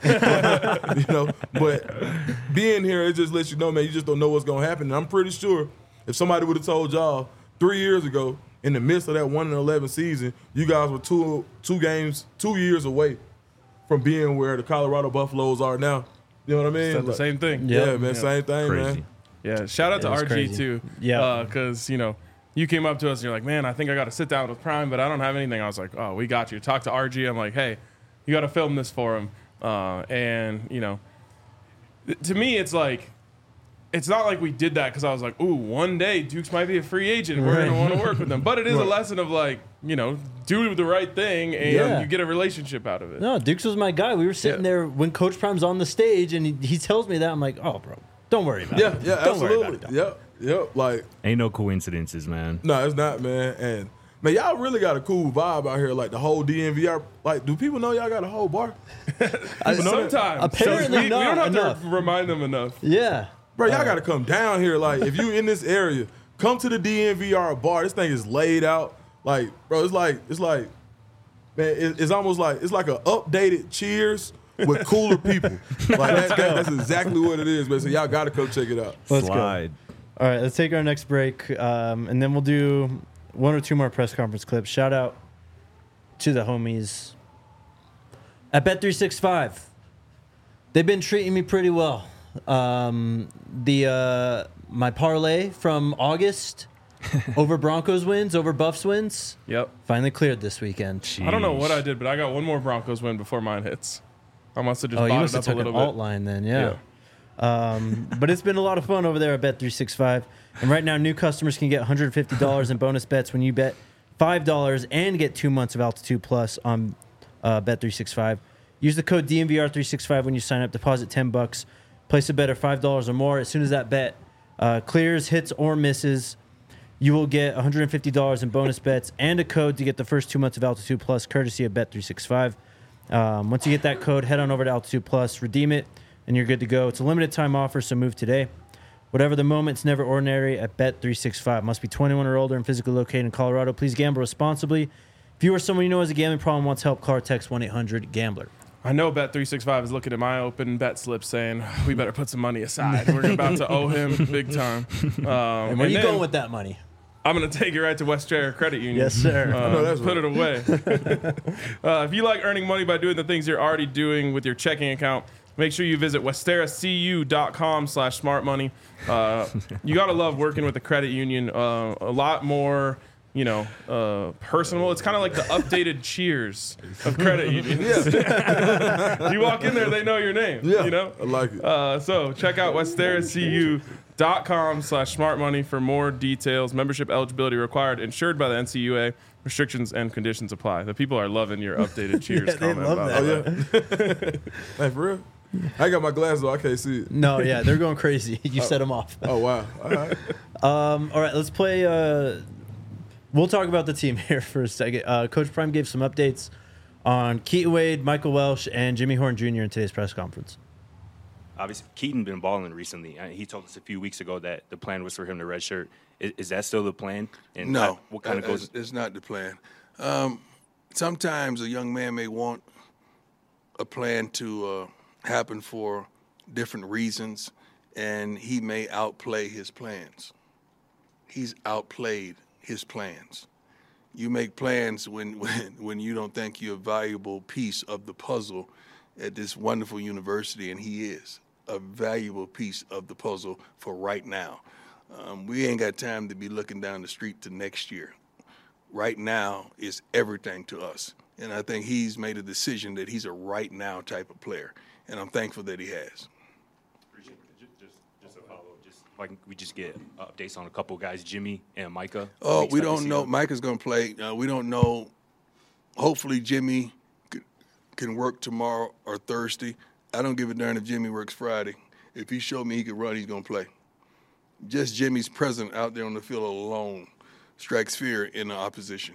But being here, it just lets you know, man, you just don't know what's going to happen. And I'm pretty sure if somebody would have told y'all 3 years ago, in the midst of that 1-11 season, you guys were 2 years away from being where the Colorado Buffaloes are now. You know what I mean? It's the same thing. Yeah, man, same thing, crazy. Man. Yeah, shout out to RG crazy. too. Yeah, because you came up to us and you're like, man, I think I got to sit down with Prime, but I don't have anything. I was like, oh, we got you. Talk to RG. I'm like, hey, you got to film this for him. And to me, it's like, it's not like we did that because I was like, ooh, one day Dukes might be a free agent. We're going to want to work with them. But it is a lesson of, like, do the right thing and you get a relationship out of it. No, Dukes was my guy. We were sitting there when Coach Prime's on the stage and he tells me that. I'm like, oh, bro, don't worry about it. Yeah, don't absolutely. Worry about it, Yep. Like, ain't no coincidences, man. No, it's not, man. And man, y'all really got a cool vibe out here. Like the whole DNVR. Like, do people know y'all got a whole bar? Sometimes. Apparently we don't have enough. to remind them enough. Yeah. Bro, y'all got to come down here. Like, if you in this area, come to the DNVR bar. This thing is laid out. Like, bro, it's like, man, it's almost like, it's like an updated Cheers, with cooler people. Like that's exactly what it is, man. So y'all got to come check it out. Let's Slide. All right, let's take our next break, and then we'll do one or two more press conference clips. Shout out to the homies at Bet365. They've been treating me pretty well. My parlay from August over Broncos wins, over Buffs wins, Yep. finally cleared this weekend. I don't know what I did, but I got one more Broncos win before mine hits. I must have just Oh, you bought must it have up a took an little alt bit. line then, yeah. But it's been a lot of fun over there at Bet365. And right now, new customers can get $150 in bonus bets when you bet $5 and get 2 months of Altitude Plus on Bet365. Use the code DNVR365 when you sign up. Deposit $10. Place a bet of $5 or more. As soon as that bet clears, hits, or misses, you will get $150 in bonus bets and a code to get the first 2 months of Altitude Plus, courtesy of Bet365. Once you get that code, head on over to Altitude Plus, redeem it, and you're good to go. It's a limited time offer, so move today. Whatever the moment, it's never ordinary at Bet365. Must be 21 or older and physically located in Colorado. Please gamble responsibly. If you or someone you know has a gambling problem, wants help, call or text 1-800-GAMBLER. I know Bet365 is looking at my open bet slip saying, we better put some money aside. We're about to owe him big time. And where are you then going with that money? I'm going to take it right to West Terra Credit Union. Yes, sir. know that's Put it away. If you like earning money by doing the things you're already doing with your checking account, make sure you visit westerracu.com/smartmoney. You got to love working with the credit union. A lot more, personal. It's kind of like the updated Cheers of credit unions. You walk in there, they know your name. Yeah, You know? I like it. So check out westerracu.com/smartmoney for more details. Membership eligibility required. Insured by the NCUA. Restrictions and conditions apply. The people are loving your updated Cheers they comment. love by that. the way. Hey, for real? I got my glasses on. I can't see it. No, yeah, they're going crazy. You set them off. Oh, wow. All right. All right, let's play. We'll talk about the team here for a second. Coach Prime gave some updates on Keaton Wade, Michael Welsh, and Jimmy Horn Jr. in today's press conference. Obviously, Keaton been balling recently. He told us a few weeks ago that the plan was for him to redshirt. Is that still the plan? And No, what kind of goes? it's not the plan. Sometimes a young man may want a plan to happen for different reasons, and he may outplay his plans. He's outplayed his plans. You make plans when you don't think you're a valuable piece of the puzzle at this wonderful university, and he is a valuable piece of the puzzle for right now. We ain't got time to be looking down the street to next year. Right now is everything to us. And I think he's made a decision that he's a right now type of player. And I'm thankful that he has. Just a follow. Just like we just get updates on a couple guys, Jimmy and Micah. Oh, we expect to don't see know. them. Micah's going to play. We don't know. Hopefully Jimmy can work tomorrow or Thursday. I don't give a darn if Jimmy works Friday. If he showed me he could run, he's going to play. Just Jimmy's presence out there on the field alone strikes fear in the opposition.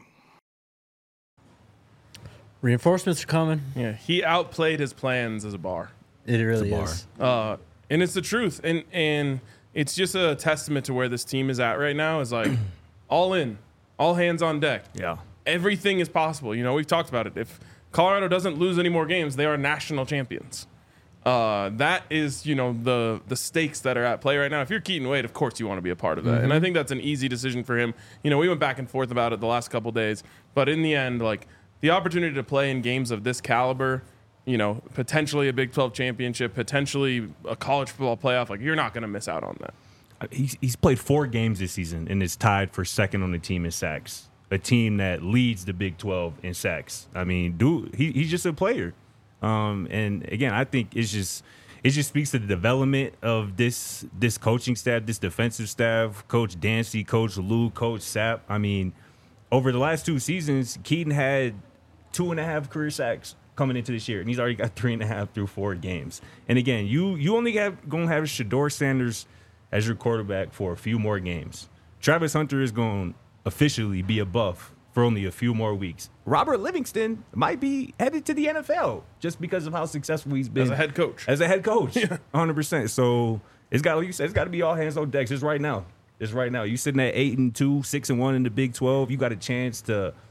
Reinforcements are coming. Yeah, he outplayed his plans as a bar. It really bar. is. And it's the truth. And it's just a testament to where this team is at right now is like all in, all hands on deck. Yeah. Everything is possible. We've talked about it. If Colorado doesn't lose any more games, they are national champions. That is, the stakes that are at play right now. If you're Keaton Wade, of course you want to be a part of that. And I think that's an easy decision for him. We went back and forth about it the last couple days. But in the end, like, the opportunity to play in games of this caliber, potentially a Big 12 championship, potentially a college football playoff, like, you're not going to miss out on that. He's played 4 games this season and is tied for second on the team in sacks. A team that leads the Big 12 in sacks. I mean, dude, he's just a player. And again, I think it just speaks to the development of this coaching staff, this defensive staff, Coach Dancy, Coach Lou, Coach Sapp. I mean, over the last 2 seasons, Keaton had 2.5 career sacks coming into this year, and he's already got 3.5 through 4 games. And again, you only gonna have Shedeur Sanders as your quarterback for a few more games. Travis Hunter is going to officially be a Buff for only a few more weeks. Robert Livingston might be headed to the NFL just because of how successful he's been As a head coach. 100%. So it's got, like you said, it's got to be all hands on deck. Just right now. You sitting at 8-2, 6-1 in the Big 12. You got a chance to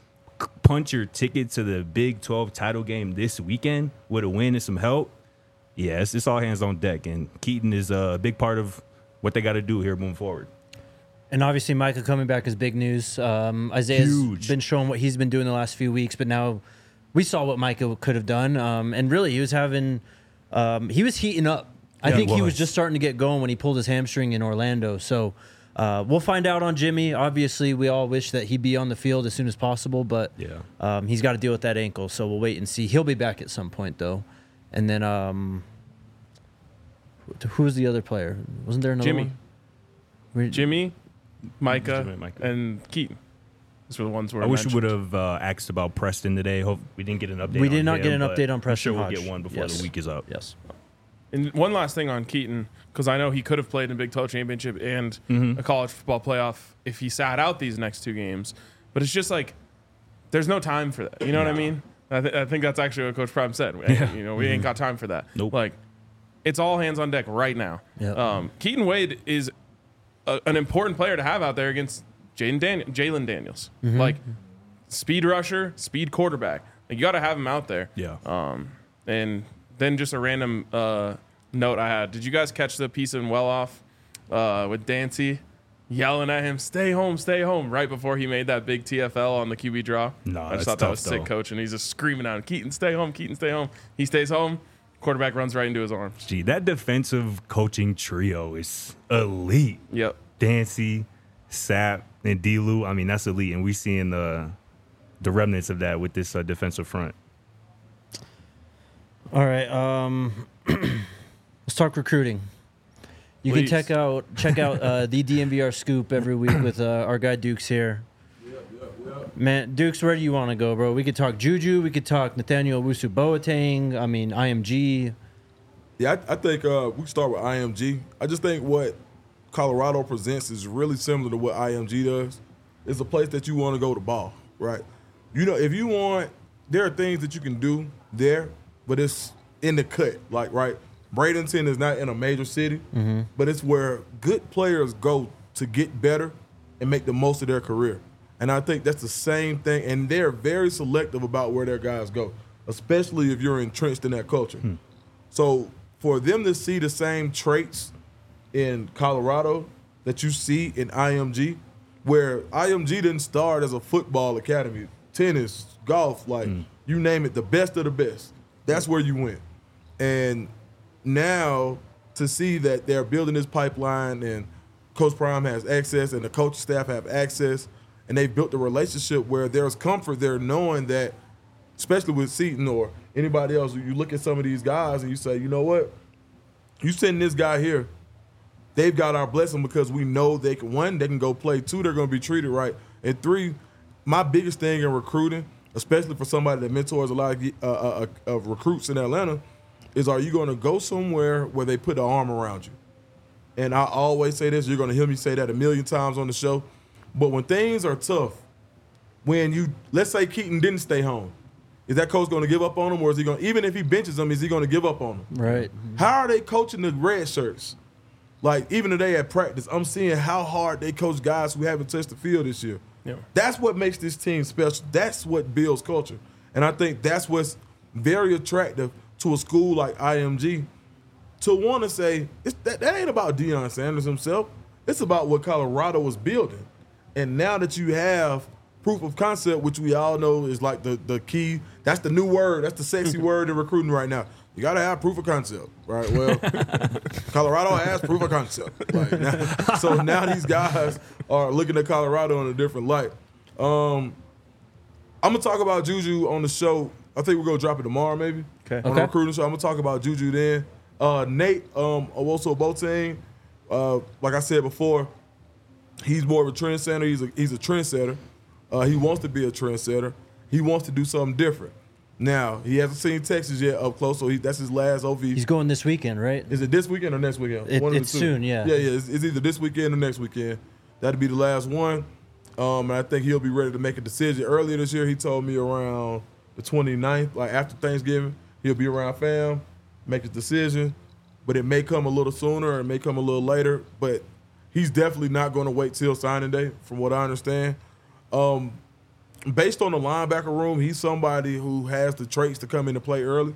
punch your ticket to the Big 12 title game this weekend with a win and some help, yes, it's all hands on deck. And Keaton is a big part of what they got to do here moving forward. And obviously, Micah coming back is big news. Isaiah's Huge. been showing what he's been doing the last few weeks, but now we saw what Micah could have done. And really, he was heating up. I think he was just starting to get going when he pulled his hamstring in Orlando. So we'll find out on Jimmy. Obviously, we all wish that he'd be on the field as soon as possible, but he's got to deal with that ankle. So we'll wait and see. He'll be back at some point, though. And then who was the other player? Wasn't there another one? Jimmy, Micah, Jimmy, Micah. and Keaton. Those were the ones where I wish we would have asked about Preston today. Hope we didn't get an update. We did not him, get an but update on I'm Preston sure we'll Hodge. get one before the week is up. Yes. And one last thing on Keaton, because I know he could have played in Big 12 championship and a college football playoff if he sat out these next 2 games. But it's just like there's no time for that. You know what I mean? I think that's actually what Coach Prime said. We ain't got time for that. Nope. Like, it's all hands on deck right now. Yep. Keaton Wade is an important player to have out there against Jalen Daniels. Like, speed rusher, speed quarterback. Like, you got to have him out there. Yeah. And then just a random note I had. Did you guys catch the piece in Well Off with Dancy yelling at him, stay home, right before he made that big TFL on the QB draw? No, I just that's thought that tough, was sick, though. coach. And he's just screaming out, Keaton, stay home. He stays home. Quarterback runs right into his arms. Gee, that defensive coaching trio is elite. Yep. Dancy, Sapp, and D-Lou. I mean, that's elite. And we're seeing the remnants of that with this defensive front. All right. Let's talk recruiting. You Please. can check out the DMVR Scoop every week with our guy Dukes here. Man, Dukes, where do you want to go, bro? We could talk Juju. We could talk Nathaniel Owusu-Boateng. I mean, IMG. Yeah, I think we start with IMG. I just think what Colorado presents is really similar to what IMG does. It's a place that you want to go to ball, right? You know, if you want, there are things that you can do there, but it's in the cut, like, right? Bradenton is not in a major city, but it's where good players go to get better and make the most of their career. And I think that's the same thing, and they're very selective about where their guys go, especially if you're entrenched in that culture. So for them to see the same traits in Colorado that you see in IMG, where IMG didn't start as a football academy, tennis, golf, like you name it, the best of the best. That's where you went. And now to see that they're building this pipeline and Coach Prime has access and the coaching staff have access, and they've built a relationship where there's comfort there knowing that, especially with Seton or anybody else, you look at some of these guys and you say, you know what? You send this guy here, they've got our blessing because we know they can, 1, they can go play, 2, they're going to be treated right, and 3, my biggest thing in recruiting, especially for somebody that mentors a lot of recruits in Atlanta, is are you going to go somewhere where they put an arm around you? And I always say this, you're going to hear me say that a million times on the show, but when things are tough, let's say Keaton didn't stay home, is that coach going to give up on him, or is he going to, even if he benches him, is he going to give up on him? Right. How are they coaching the red shirts? Like, even today at practice, I'm seeing how hard they coach guys who haven't touched the field this year. Yeah. That's what makes this team special. That's what builds culture. And I think that's what's very attractive to a school like IMG to want to say, that ain't about Deion Sanders himself. It's about what Colorado was building. And now that you have proof of concept, which we all know is like the key, that's the new word, that's the sexy word in recruiting right now. You got to have proof of concept, right? Well, Colorado has proof of concept. Like, so now these guys are looking at Colorado in a different light. I'm going to talk about Juju on the show. I think we're going to drop it tomorrow maybe. On the recruiting show. I'm going to talk about Juju then. Nate Owusu-Boateng, like I said before, he's more of a trendsetter. He's a trendsetter. He wants to be a trendsetter. He wants to do something different. Now, he hasn't seen Texas yet up close, so that's his last OV. He's going this weekend, right? Is it this weekend or next weekend? It's soon, yeah. Yeah. It's either this weekend or next weekend. That'll be the last one. And I think he'll be ready to make a decision. Earlier this year, he told me around the 29th, like after Thanksgiving, he'll be around fam, make a decision. But it may come a little sooner or it may come a little later. But he's definitely not going to wait till signing day, from what I understand. based on the linebacker room, he's somebody who has the traits to come into play early.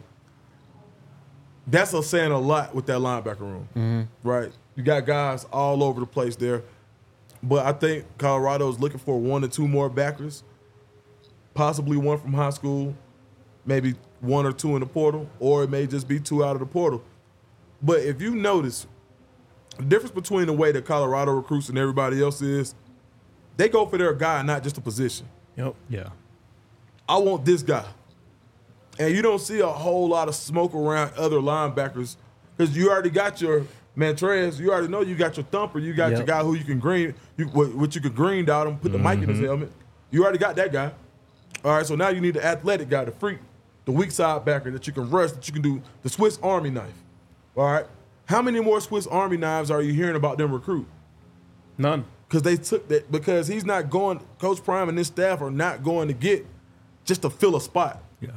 That's saying a lot with that linebacker room, right? You got guys all over the place there. But I think Colorado is looking for 1 or 2 more backers, possibly one from high school, maybe 1 or 2 in the portal, or it may just be 2 out of the portal. But if you notice, the difference between the way that Colorado recruits and everybody else is, they go for their guy, not just a position. Yep. Yeah. I want this guy. And you don't see a whole lot of smoke around other linebackers because you already got your Montrez. You already know you got your thumper. You got your guy who you can green, what you could green dot him, put the mic in his helmet. You already got that guy. All right, so now you need the athletic guy, the freak, the weak side backer that you can rush, that you can do the Swiss Army knife. All right? How many more Swiss Army knives are you hearing about them recruit? None. Because they took that, because he's not going, Coach Prime and his staff are not going to get just to fill a spot. Yeah.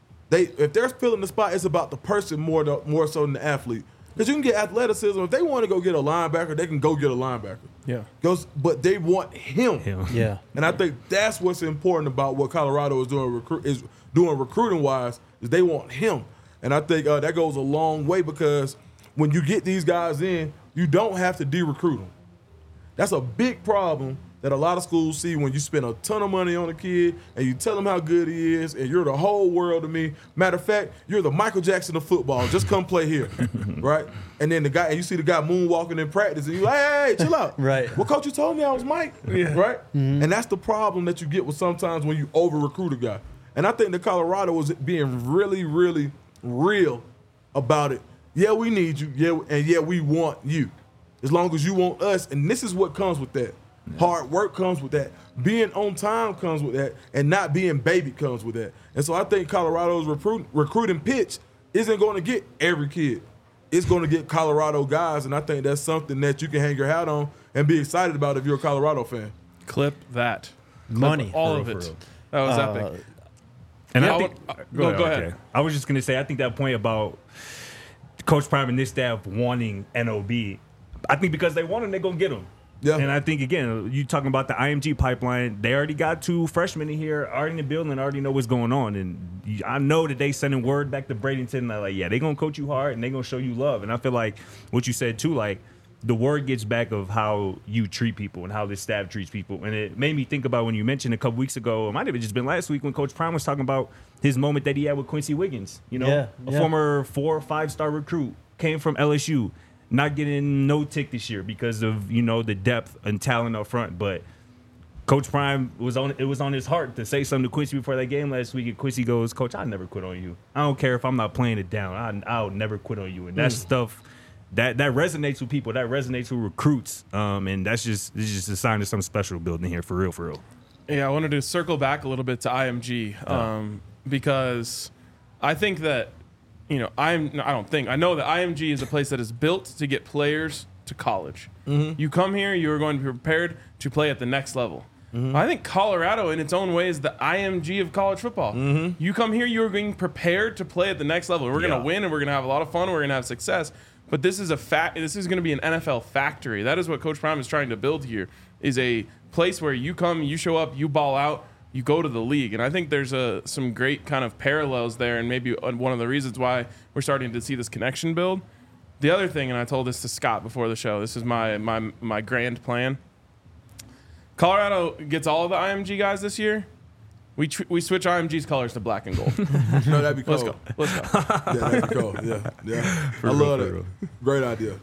If they're filling the spot, it's about the person more so than the athlete. Because you can get athleticism. If they want to go get a linebacker, they can go get a linebacker. Yeah. But they want him. Yeah. And I think that's what's important about what Colorado is doing recruiting-wise, is they want him. And I think that goes a long way because when you get these guys in, you don't have to de-recruit them. That's a big problem that a lot of schools see when you spend a ton of money on a kid and you tell him how good he is and you're the whole world to me. Matter of fact, you're the Michael Jackson of football. Just come play here, right? And then you see the guy moonwalking in practice and you're like, hey, chill out. Right. Well, coach, you told me I was Mike, right? And that's the problem that you get with sometimes when you over-recruit a guy. And I think that Colorado was being really, really real about it. Yeah, we need you. Yeah, and yeah, we want you. As long as you want us. And this is what comes with that. Yeah. Hard work comes with that. Being on time comes with that. And not being baby comes with that. And so I think Colorado's recruiting pitch isn't going to get every kid. It's going to get Colorado guys. And I think that's something that you can hang your hat on and be excited about if you're a Colorado fan. Clip that. Money. All of it. That was epic. And yeah, I think, go ahead. Okay. I was just going to say, I think that point about Coach Prime and this staff wanting NOB, I think because they want him, they're going to get him. Yeah. And I think, again, you talking about the IMG pipeline, they already got 2 freshmen in here, already in the building, already know what's going on. And I know that they sending word back to Bradenton, and they're like, yeah, they're going to coach you hard, and they're going to show you love. And I feel like what you said, too, like, the word gets back of how you treat people and how this staff treats people. And it made me think about when you mentioned a couple weeks ago, it might have just been last week when Coach Prime was talking about his moment that he had with Quincy Wiggins, a former 4 or 5-star recruit, came from LSU. Not getting no tick this year because of, the depth and talent up front. But Coach Prime it was on his heart to say something to Quincy before that game last week. And Quincy goes, Coach, I'll never quit on you. I don't care if I'm not playing it down. I'll never quit on you. And that stuff that resonates with people. That resonates with recruits. And it's just a sign of something special building here for real. Yeah, I wanted to circle back a little bit to IMG because I think that I know that IMG is a place that is built to get players to college. Mm-hmm. You come here, you are going to be prepared to play at the next level. Mm-hmm. I think Colorado, in its own way, is the IMG of college football. Mm-hmm. You come here, you are being prepared to play at the next level. We're going to win, and we're going to have a lot of fun, and we're going to have success. But this is This is going to be an NFL factory. That is what Coach Prime is trying to build here, is a place where you come, you show up, you ball out, you go to the league. And I think there's some great kind of parallels there, and maybe one of the reasons why we're starting to see this connection build. The other thing, and I told this to Scott before the show, this is my grand plan. Colorado gets all of the IMG guys this year. We switch IMG's colors to black and gold. No, that'd be cool. Let's go. Yeah, that'd be cool. Yeah. I love it. Great idea.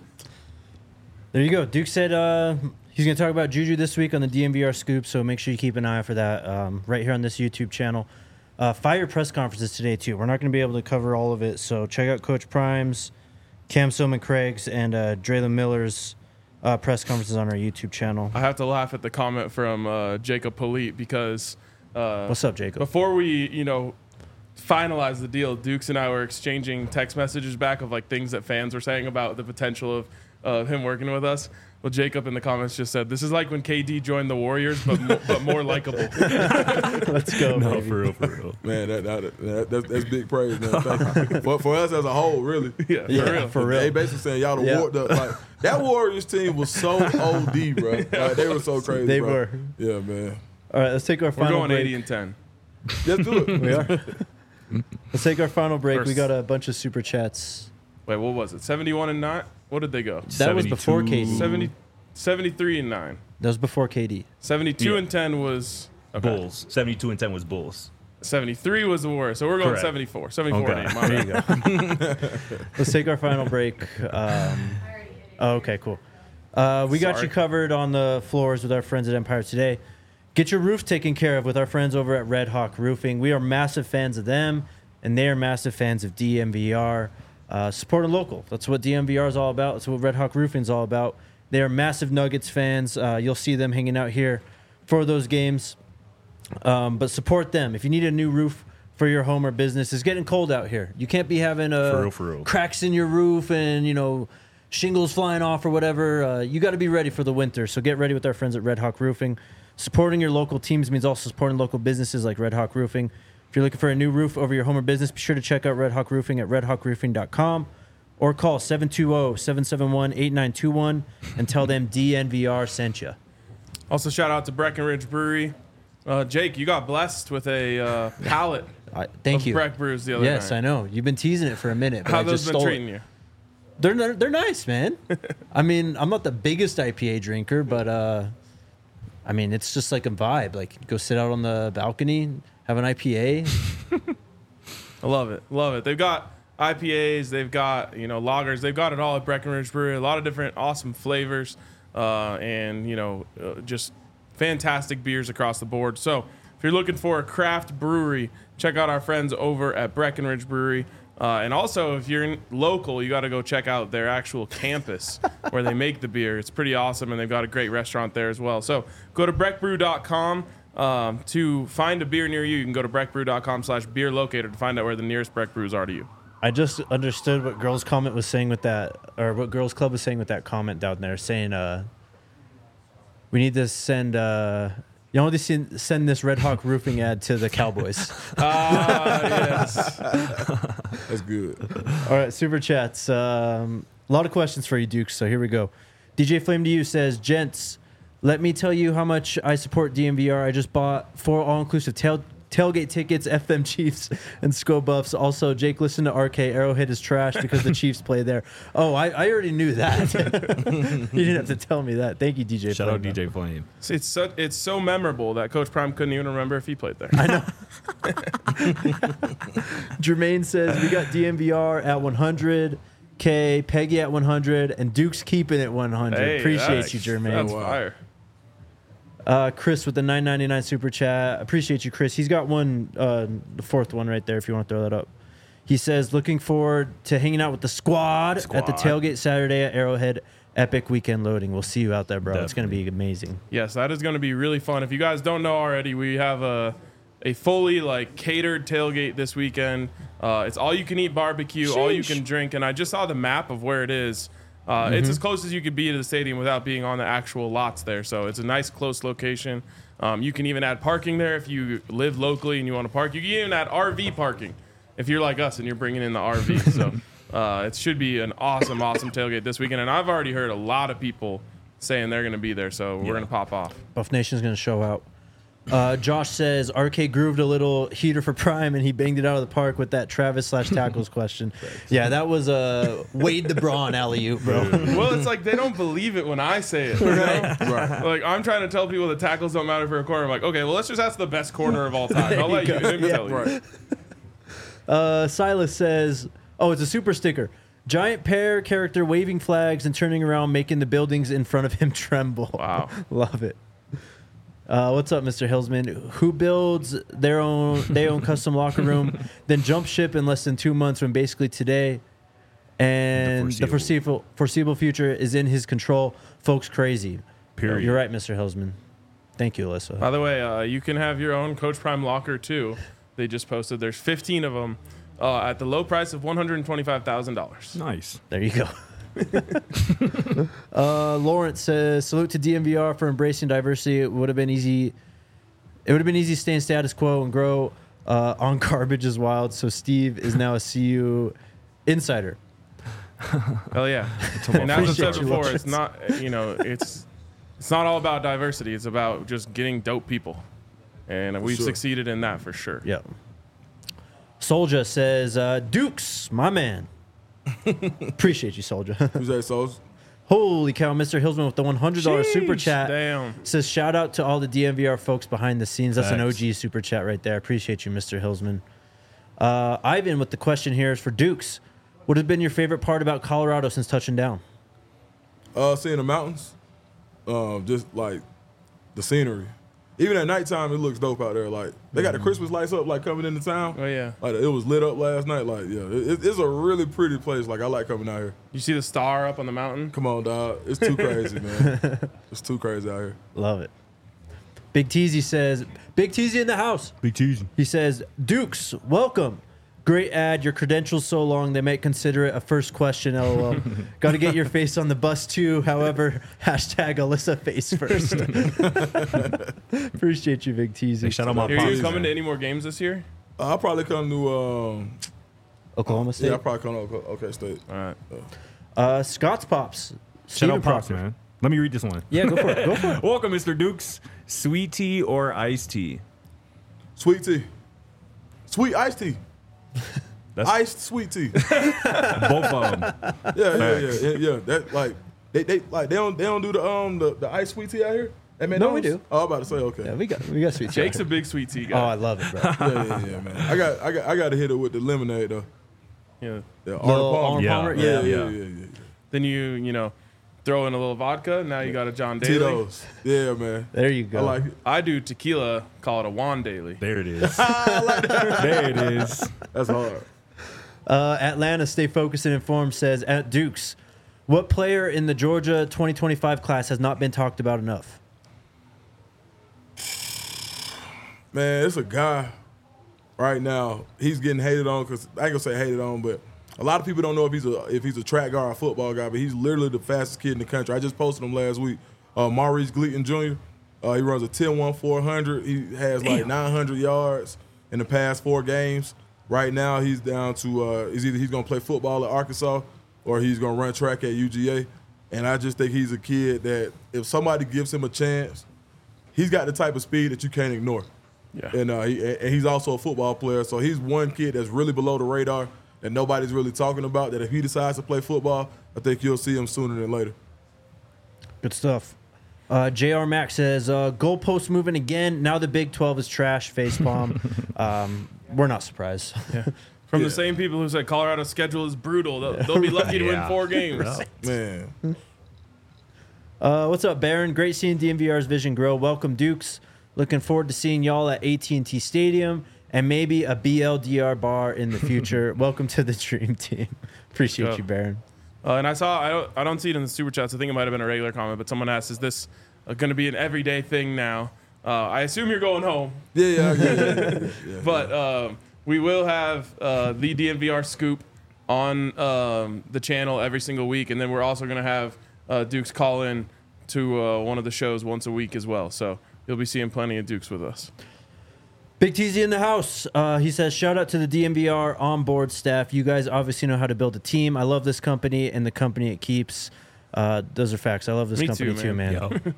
There you go. Duke said he's going to talk about Juju this week on the DMVR Scoop, so make sure you keep an eye out for that right here on this YouTube channel. Fire press conferences today, too. We're not going to be able to cover all of it, so check out Coach Prime's, Cam Silman-Craig's, and Draylon Miller's press conferences on our YouTube channel. I have to laugh at the comment from Jacob Polite because... what's up, Jacob? Before we, finalize the deal, Dukes and I were exchanging text messages back of, things that fans were saying about the potential of him working with us. Well, Jacob in the comments just said, this is like when KD joined the Warriors, but more likable. Let's go, no, baby. for real. Man, that's big praise, man. Thank you. For us as a whole, really. Yeah, for real. They basically saying y'all that Warriors team was so OD, bro. They were so crazy, They bro. were. Yeah, man. All right, let's take our We're final going break. 80 and 10. Let's do it. We are. Let's take our final break. We First. got a bunch of super chats. Wait, what was it? 71 and 9? What did they go? That was before 72. KD. 73 and 9. That was before KD. 72 Yeah. and 10 was okay. Bulls. 72 and 10 was Bulls. 73 was the worst. So we're going Correct. 74. 74 Okay. and 8. My There you bad. go. Let's take our final break. Okay, cool. We got Sorry. you covered on the floors with our friends at Empire today. Get your roof taken care of with our friends over at Red Hawk Roofing. We are massive fans of them, and they are massive fans of DMVR. Supporting local. That's what DMVR is all about. That's what Red Hawk Roofing is all about. They are massive Nuggets fans. You'll see them hanging out here for those games. But support them. If you need a new roof for your home or business, it's getting cold out here. You can't be having For real. cracks in your roof and, shingles flying off or whatever. You got to be ready for the winter. So get ready with our friends at Red Hawk Roofing. Supporting your local teams means also supporting local businesses like Red Hawk Roofing. If you're looking for a new roof over your home or business, be sure to check out Red Hawk Roofing at redhawkroofing.com or call 720-771-8921 and tell them DNVR sent you. Also, shout out to Breckenridge Brewery. Jake, you got blessed with a pallet Thank of you. Breck Brews the other Yes, night. I know. You've been teasing it for a minute. But How I those just been stole treating it. you? They're nice, man. I mean, I'm not the biggest IPA drinker, but I mean, it's just like a vibe. Like, go sit out on the balcony, have an IPA. I love it. Love it. They've got IPAs, they've got, lagers, they've got it all at Breckenridge Brewery. A lot of different awesome flavors and, just fantastic beers across the board. So if you're looking for a craft brewery, check out our friends over at Breckenridge Brewery. And also, if you're local, you got to go check out their actual campus where they make the beer. It's pretty awesome, and they've got a great restaurant there as well. So go to breckbrew.com to find a beer near you. You can go to breckbrew.com/beer locator to find out where the nearest Breck Brews are to you. I just understood what Girls Comment was saying with that, or what Girls Club was saying with that comment down there, saying we need to send send this Red Hawk Roofing ad to the Cowboys. Yes. That's good. All right, super chats. A lot of questions for you, Duke. So here we go. DJ Flame to You says, gents, let me tell you how much I support DMVR. I just bought 4 all-inclusive tailgate tickets, F them Chiefs, and Sco Buffs. Also, Jake, listen to RK. Arrowhead is trash because the Chiefs play there. Oh, I already knew that. You didn't have to tell me that. Thank you, DJ Shout Flame. out DJ Flame. It's so memorable that Coach Prime couldn't even remember if he played there. I know. Jermaine says, we got DMVR at 100K, Peggy at 100, and Duke's keeping it 100. Hey, Appreciate that's- you, Jermaine. That's fire. Chris with the $9.99 super chat. Appreciate you, Chris. He's got one, the fourth one right there if you want to throw that up. He says, looking forward to hanging out with the squad at the tailgate Saturday at Arrowhead. Epic weekend loading. We'll see you out there, bro. It's going to be amazing. Yes, that is going to be really fun. If you guys don't know already, we have a fully catered tailgate this weekend. It's all you can eat barbecue, all you can drink, and I just saw the map of where it is. It's as close as you could be to the stadium without being on the actual lots there. So it's a nice close location. You can even add parking there if you live locally and you want to park. You can even add RV parking if you're like us and you're bringing in the RV. So it should be an awesome tailgate this weekend. And I've already heard a lot of people saying they're going to be there. So we're going to pop off. Buff Nation's going to show out. Josh says, RK grooved a little heater for Prime, and he banged it out of the park with that Travis/tackles question. Yeah, that was a Wade the Braun alley-oop, bro. Well, it's like they don't believe it when I say it. You know? Right. Like, I'm trying to tell people that tackles don't matter for a corner. I'm like, okay, well, let's just ask the best corner of all time. I'll let you tell you. Right. Silas says, oh, it's a super sticker. Giant pear character waving flags and turning around, making the buildings in front of him tremble. Wow. Love it. What's up, Mr. Hillsman? Who builds their own custom locker room, then jump ship in less than 2 months when basically today and the foreseeable future is in his control? Folks, crazy. Period. You're right, Mr. Hillsman. Thank you, Alyssa. By the way, you can have your own Coach Prime locker, too. They just posted. There's 15 of them at the low price of $125,000. Nice. There you go. Lawrence says, salute to DMVR for embracing diversity. It would have been easy staying status quo and grow on garbage is wild. So Steve is now a CU insider. Hell yeah. And as I said before, it's not, it's not all about diversity. It's about just getting dope people. and we've sure. succeeded in that for sure. Yep. Soldier says, Dukes, my man. Appreciate you, Soldier. Who's that, Souls? Holy cow, Mr. Hillsman with the $100 super Sheesh, chat. damn. Says, shout out to all the DMVR folks behind the scenes. That's an Thanks. OG super chat right there. Appreciate you, Mr. Hillsman. Ivan with the question here is for Dukes. What has been your favorite part about Colorado since touching down? Seeing the mountains, just like the scenery. Even at nighttime, it looks dope out there. Like they got the Christmas lights up, like coming into town. Oh yeah. Like it was lit up last night. Like it's a really pretty place. Like I like coming out here. You see the star up on the mountain? Come on, dog. It's too crazy, man. It's too crazy out here. Love it. Big Teasy says, Big Teasy in the house. Big Teasy. He says, Dukes, welcome. Great ad. Your credentials so long they might consider it a first question. LOL. Got to get your face on the bus too. However, hashtag Alyssa face first. Appreciate you, Big Teasy. Hey, shout out my Are pops, you coming man. to any more games this year? I'll probably come to Oklahoma State. yeah, I'll probably come to OK State. All right. Scott's Pops. Shout Steven out Pops, Proctor. man. Let me read this one. Yeah, go for it. Go for it. Welcome, Mr. Dukes. Sweet tea or iced tea? Sweet tea, sweet iced tea, That's iced sweet tea. both of them. Yeah. That like they don't do the iced sweet tea out here. At No, we McDonald's? do. Oh, I'm about to say okay. Yeah, we got sweet tea. Jake's a big sweet tea Oh, guy. I love it, bro. Yeah, man. I got to hit it with the lemonade though. Yeah. Yeah, Little Arnold Yeah. Palmer? Yeah. Then you throw in a little vodka. Now you got a John Daly. Tito's. Yeah, man. There you go. I like it. I do tequila. Call it a Juan Daly. There it is. There it is. That's hard. Atlanta, stay focused and informed, says, at Dukes, what player in the Georgia 2025 class has not been talked about enough? Man, it's a guy right now. He's getting hated on because I ain't gonna say hated on, but a lot of people don't know if he's a track guy or a football guy. But he's literally the fastest kid in the country. I just posted him last week. Maurice Gleaton Jr. He runs a 10-1-400. He has like 900 yards in the past 4 games. Right now, he's down to he's gonna play football at Arkansas or he's gonna run track at UGA. And I just think he's a kid that if somebody gives him a chance, he's got the type of speed that you can't ignore. Yeah. And he's also a football player, so he's one kid that's really below the radar that nobody's really talking about, that if he decides to play football, I think you'll see him sooner than later. Good stuff. JR Max says, goalpost moving again. Now the Big 12 is trash, facepalm. We're not surprised. From the same people who said Colorado's schedule is brutal. They'll be lucky to win 4 games. Man. What's up, Baron? Great seeing DMVR's vision grow. Welcome, Dukes. Looking forward to seeing y'all at AT&T Stadium and maybe a BLDR bar in the future. Welcome to the dream team. Appreciate you, Baron. And I don't see it in the super chats. I think it might have been a regular comment, but someone asked, is this going to be an everyday thing now? I assume you're going home. Yeah. But we will have the DMVR scoop on the channel every single week, and then we're also going to have Dukes call in to one of the shows once a week as well. So you'll be seeing plenty of Dukes with us. Big TZ in the house. He says, shout out to the DMVR onboard staff. You guys obviously know how to build a team. I love this company and the company it keeps. Those are facts. I love this Me company too, too, man.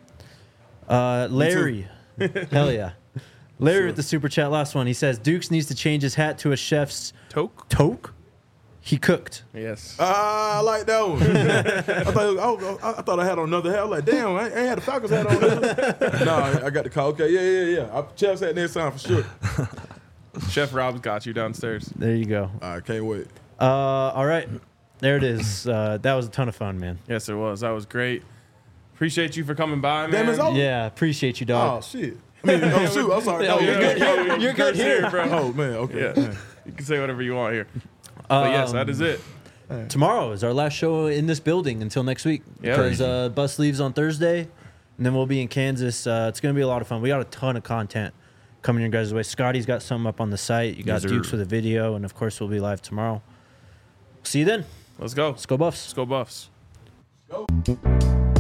Larry. Hell yeah. Larry with the super chat, last one. He says, Dukes needs to change his hat to a chef's toque. He cooked. Yes. I like that one. I thought I had on another hat. I was like, damn, I ain't had the Falcons hat on. No, I got the call. Okay, yeah. Chef's hat next time for sure. Chef Rob's got you downstairs. There you go. I can't wait. All right. There it is. That was a ton of fun, man. Yes, it was. That was great. Appreciate you for coming by, man. Damn, it's over? Yeah, appreciate you, dog. Oh, shit. I mean, oh, shoot. I'm sorry. No, you're good. You're good here, bro. Oh, man. Okay. Yeah. You can say whatever you want here. But yes, that is it. Tomorrow is our last show in this building until next week. Yeah. Because bus leaves on Thursday, and then we'll be in Kansas. It's going to be a lot of fun. We got a ton of content coming your guys' way. Scotty's got something up on the site. You got Yes, sir. Dukes with a video, and of course we'll be live tomorrow. See you then. Let's go. Let's go Buffs. Let's go Buffs. Go.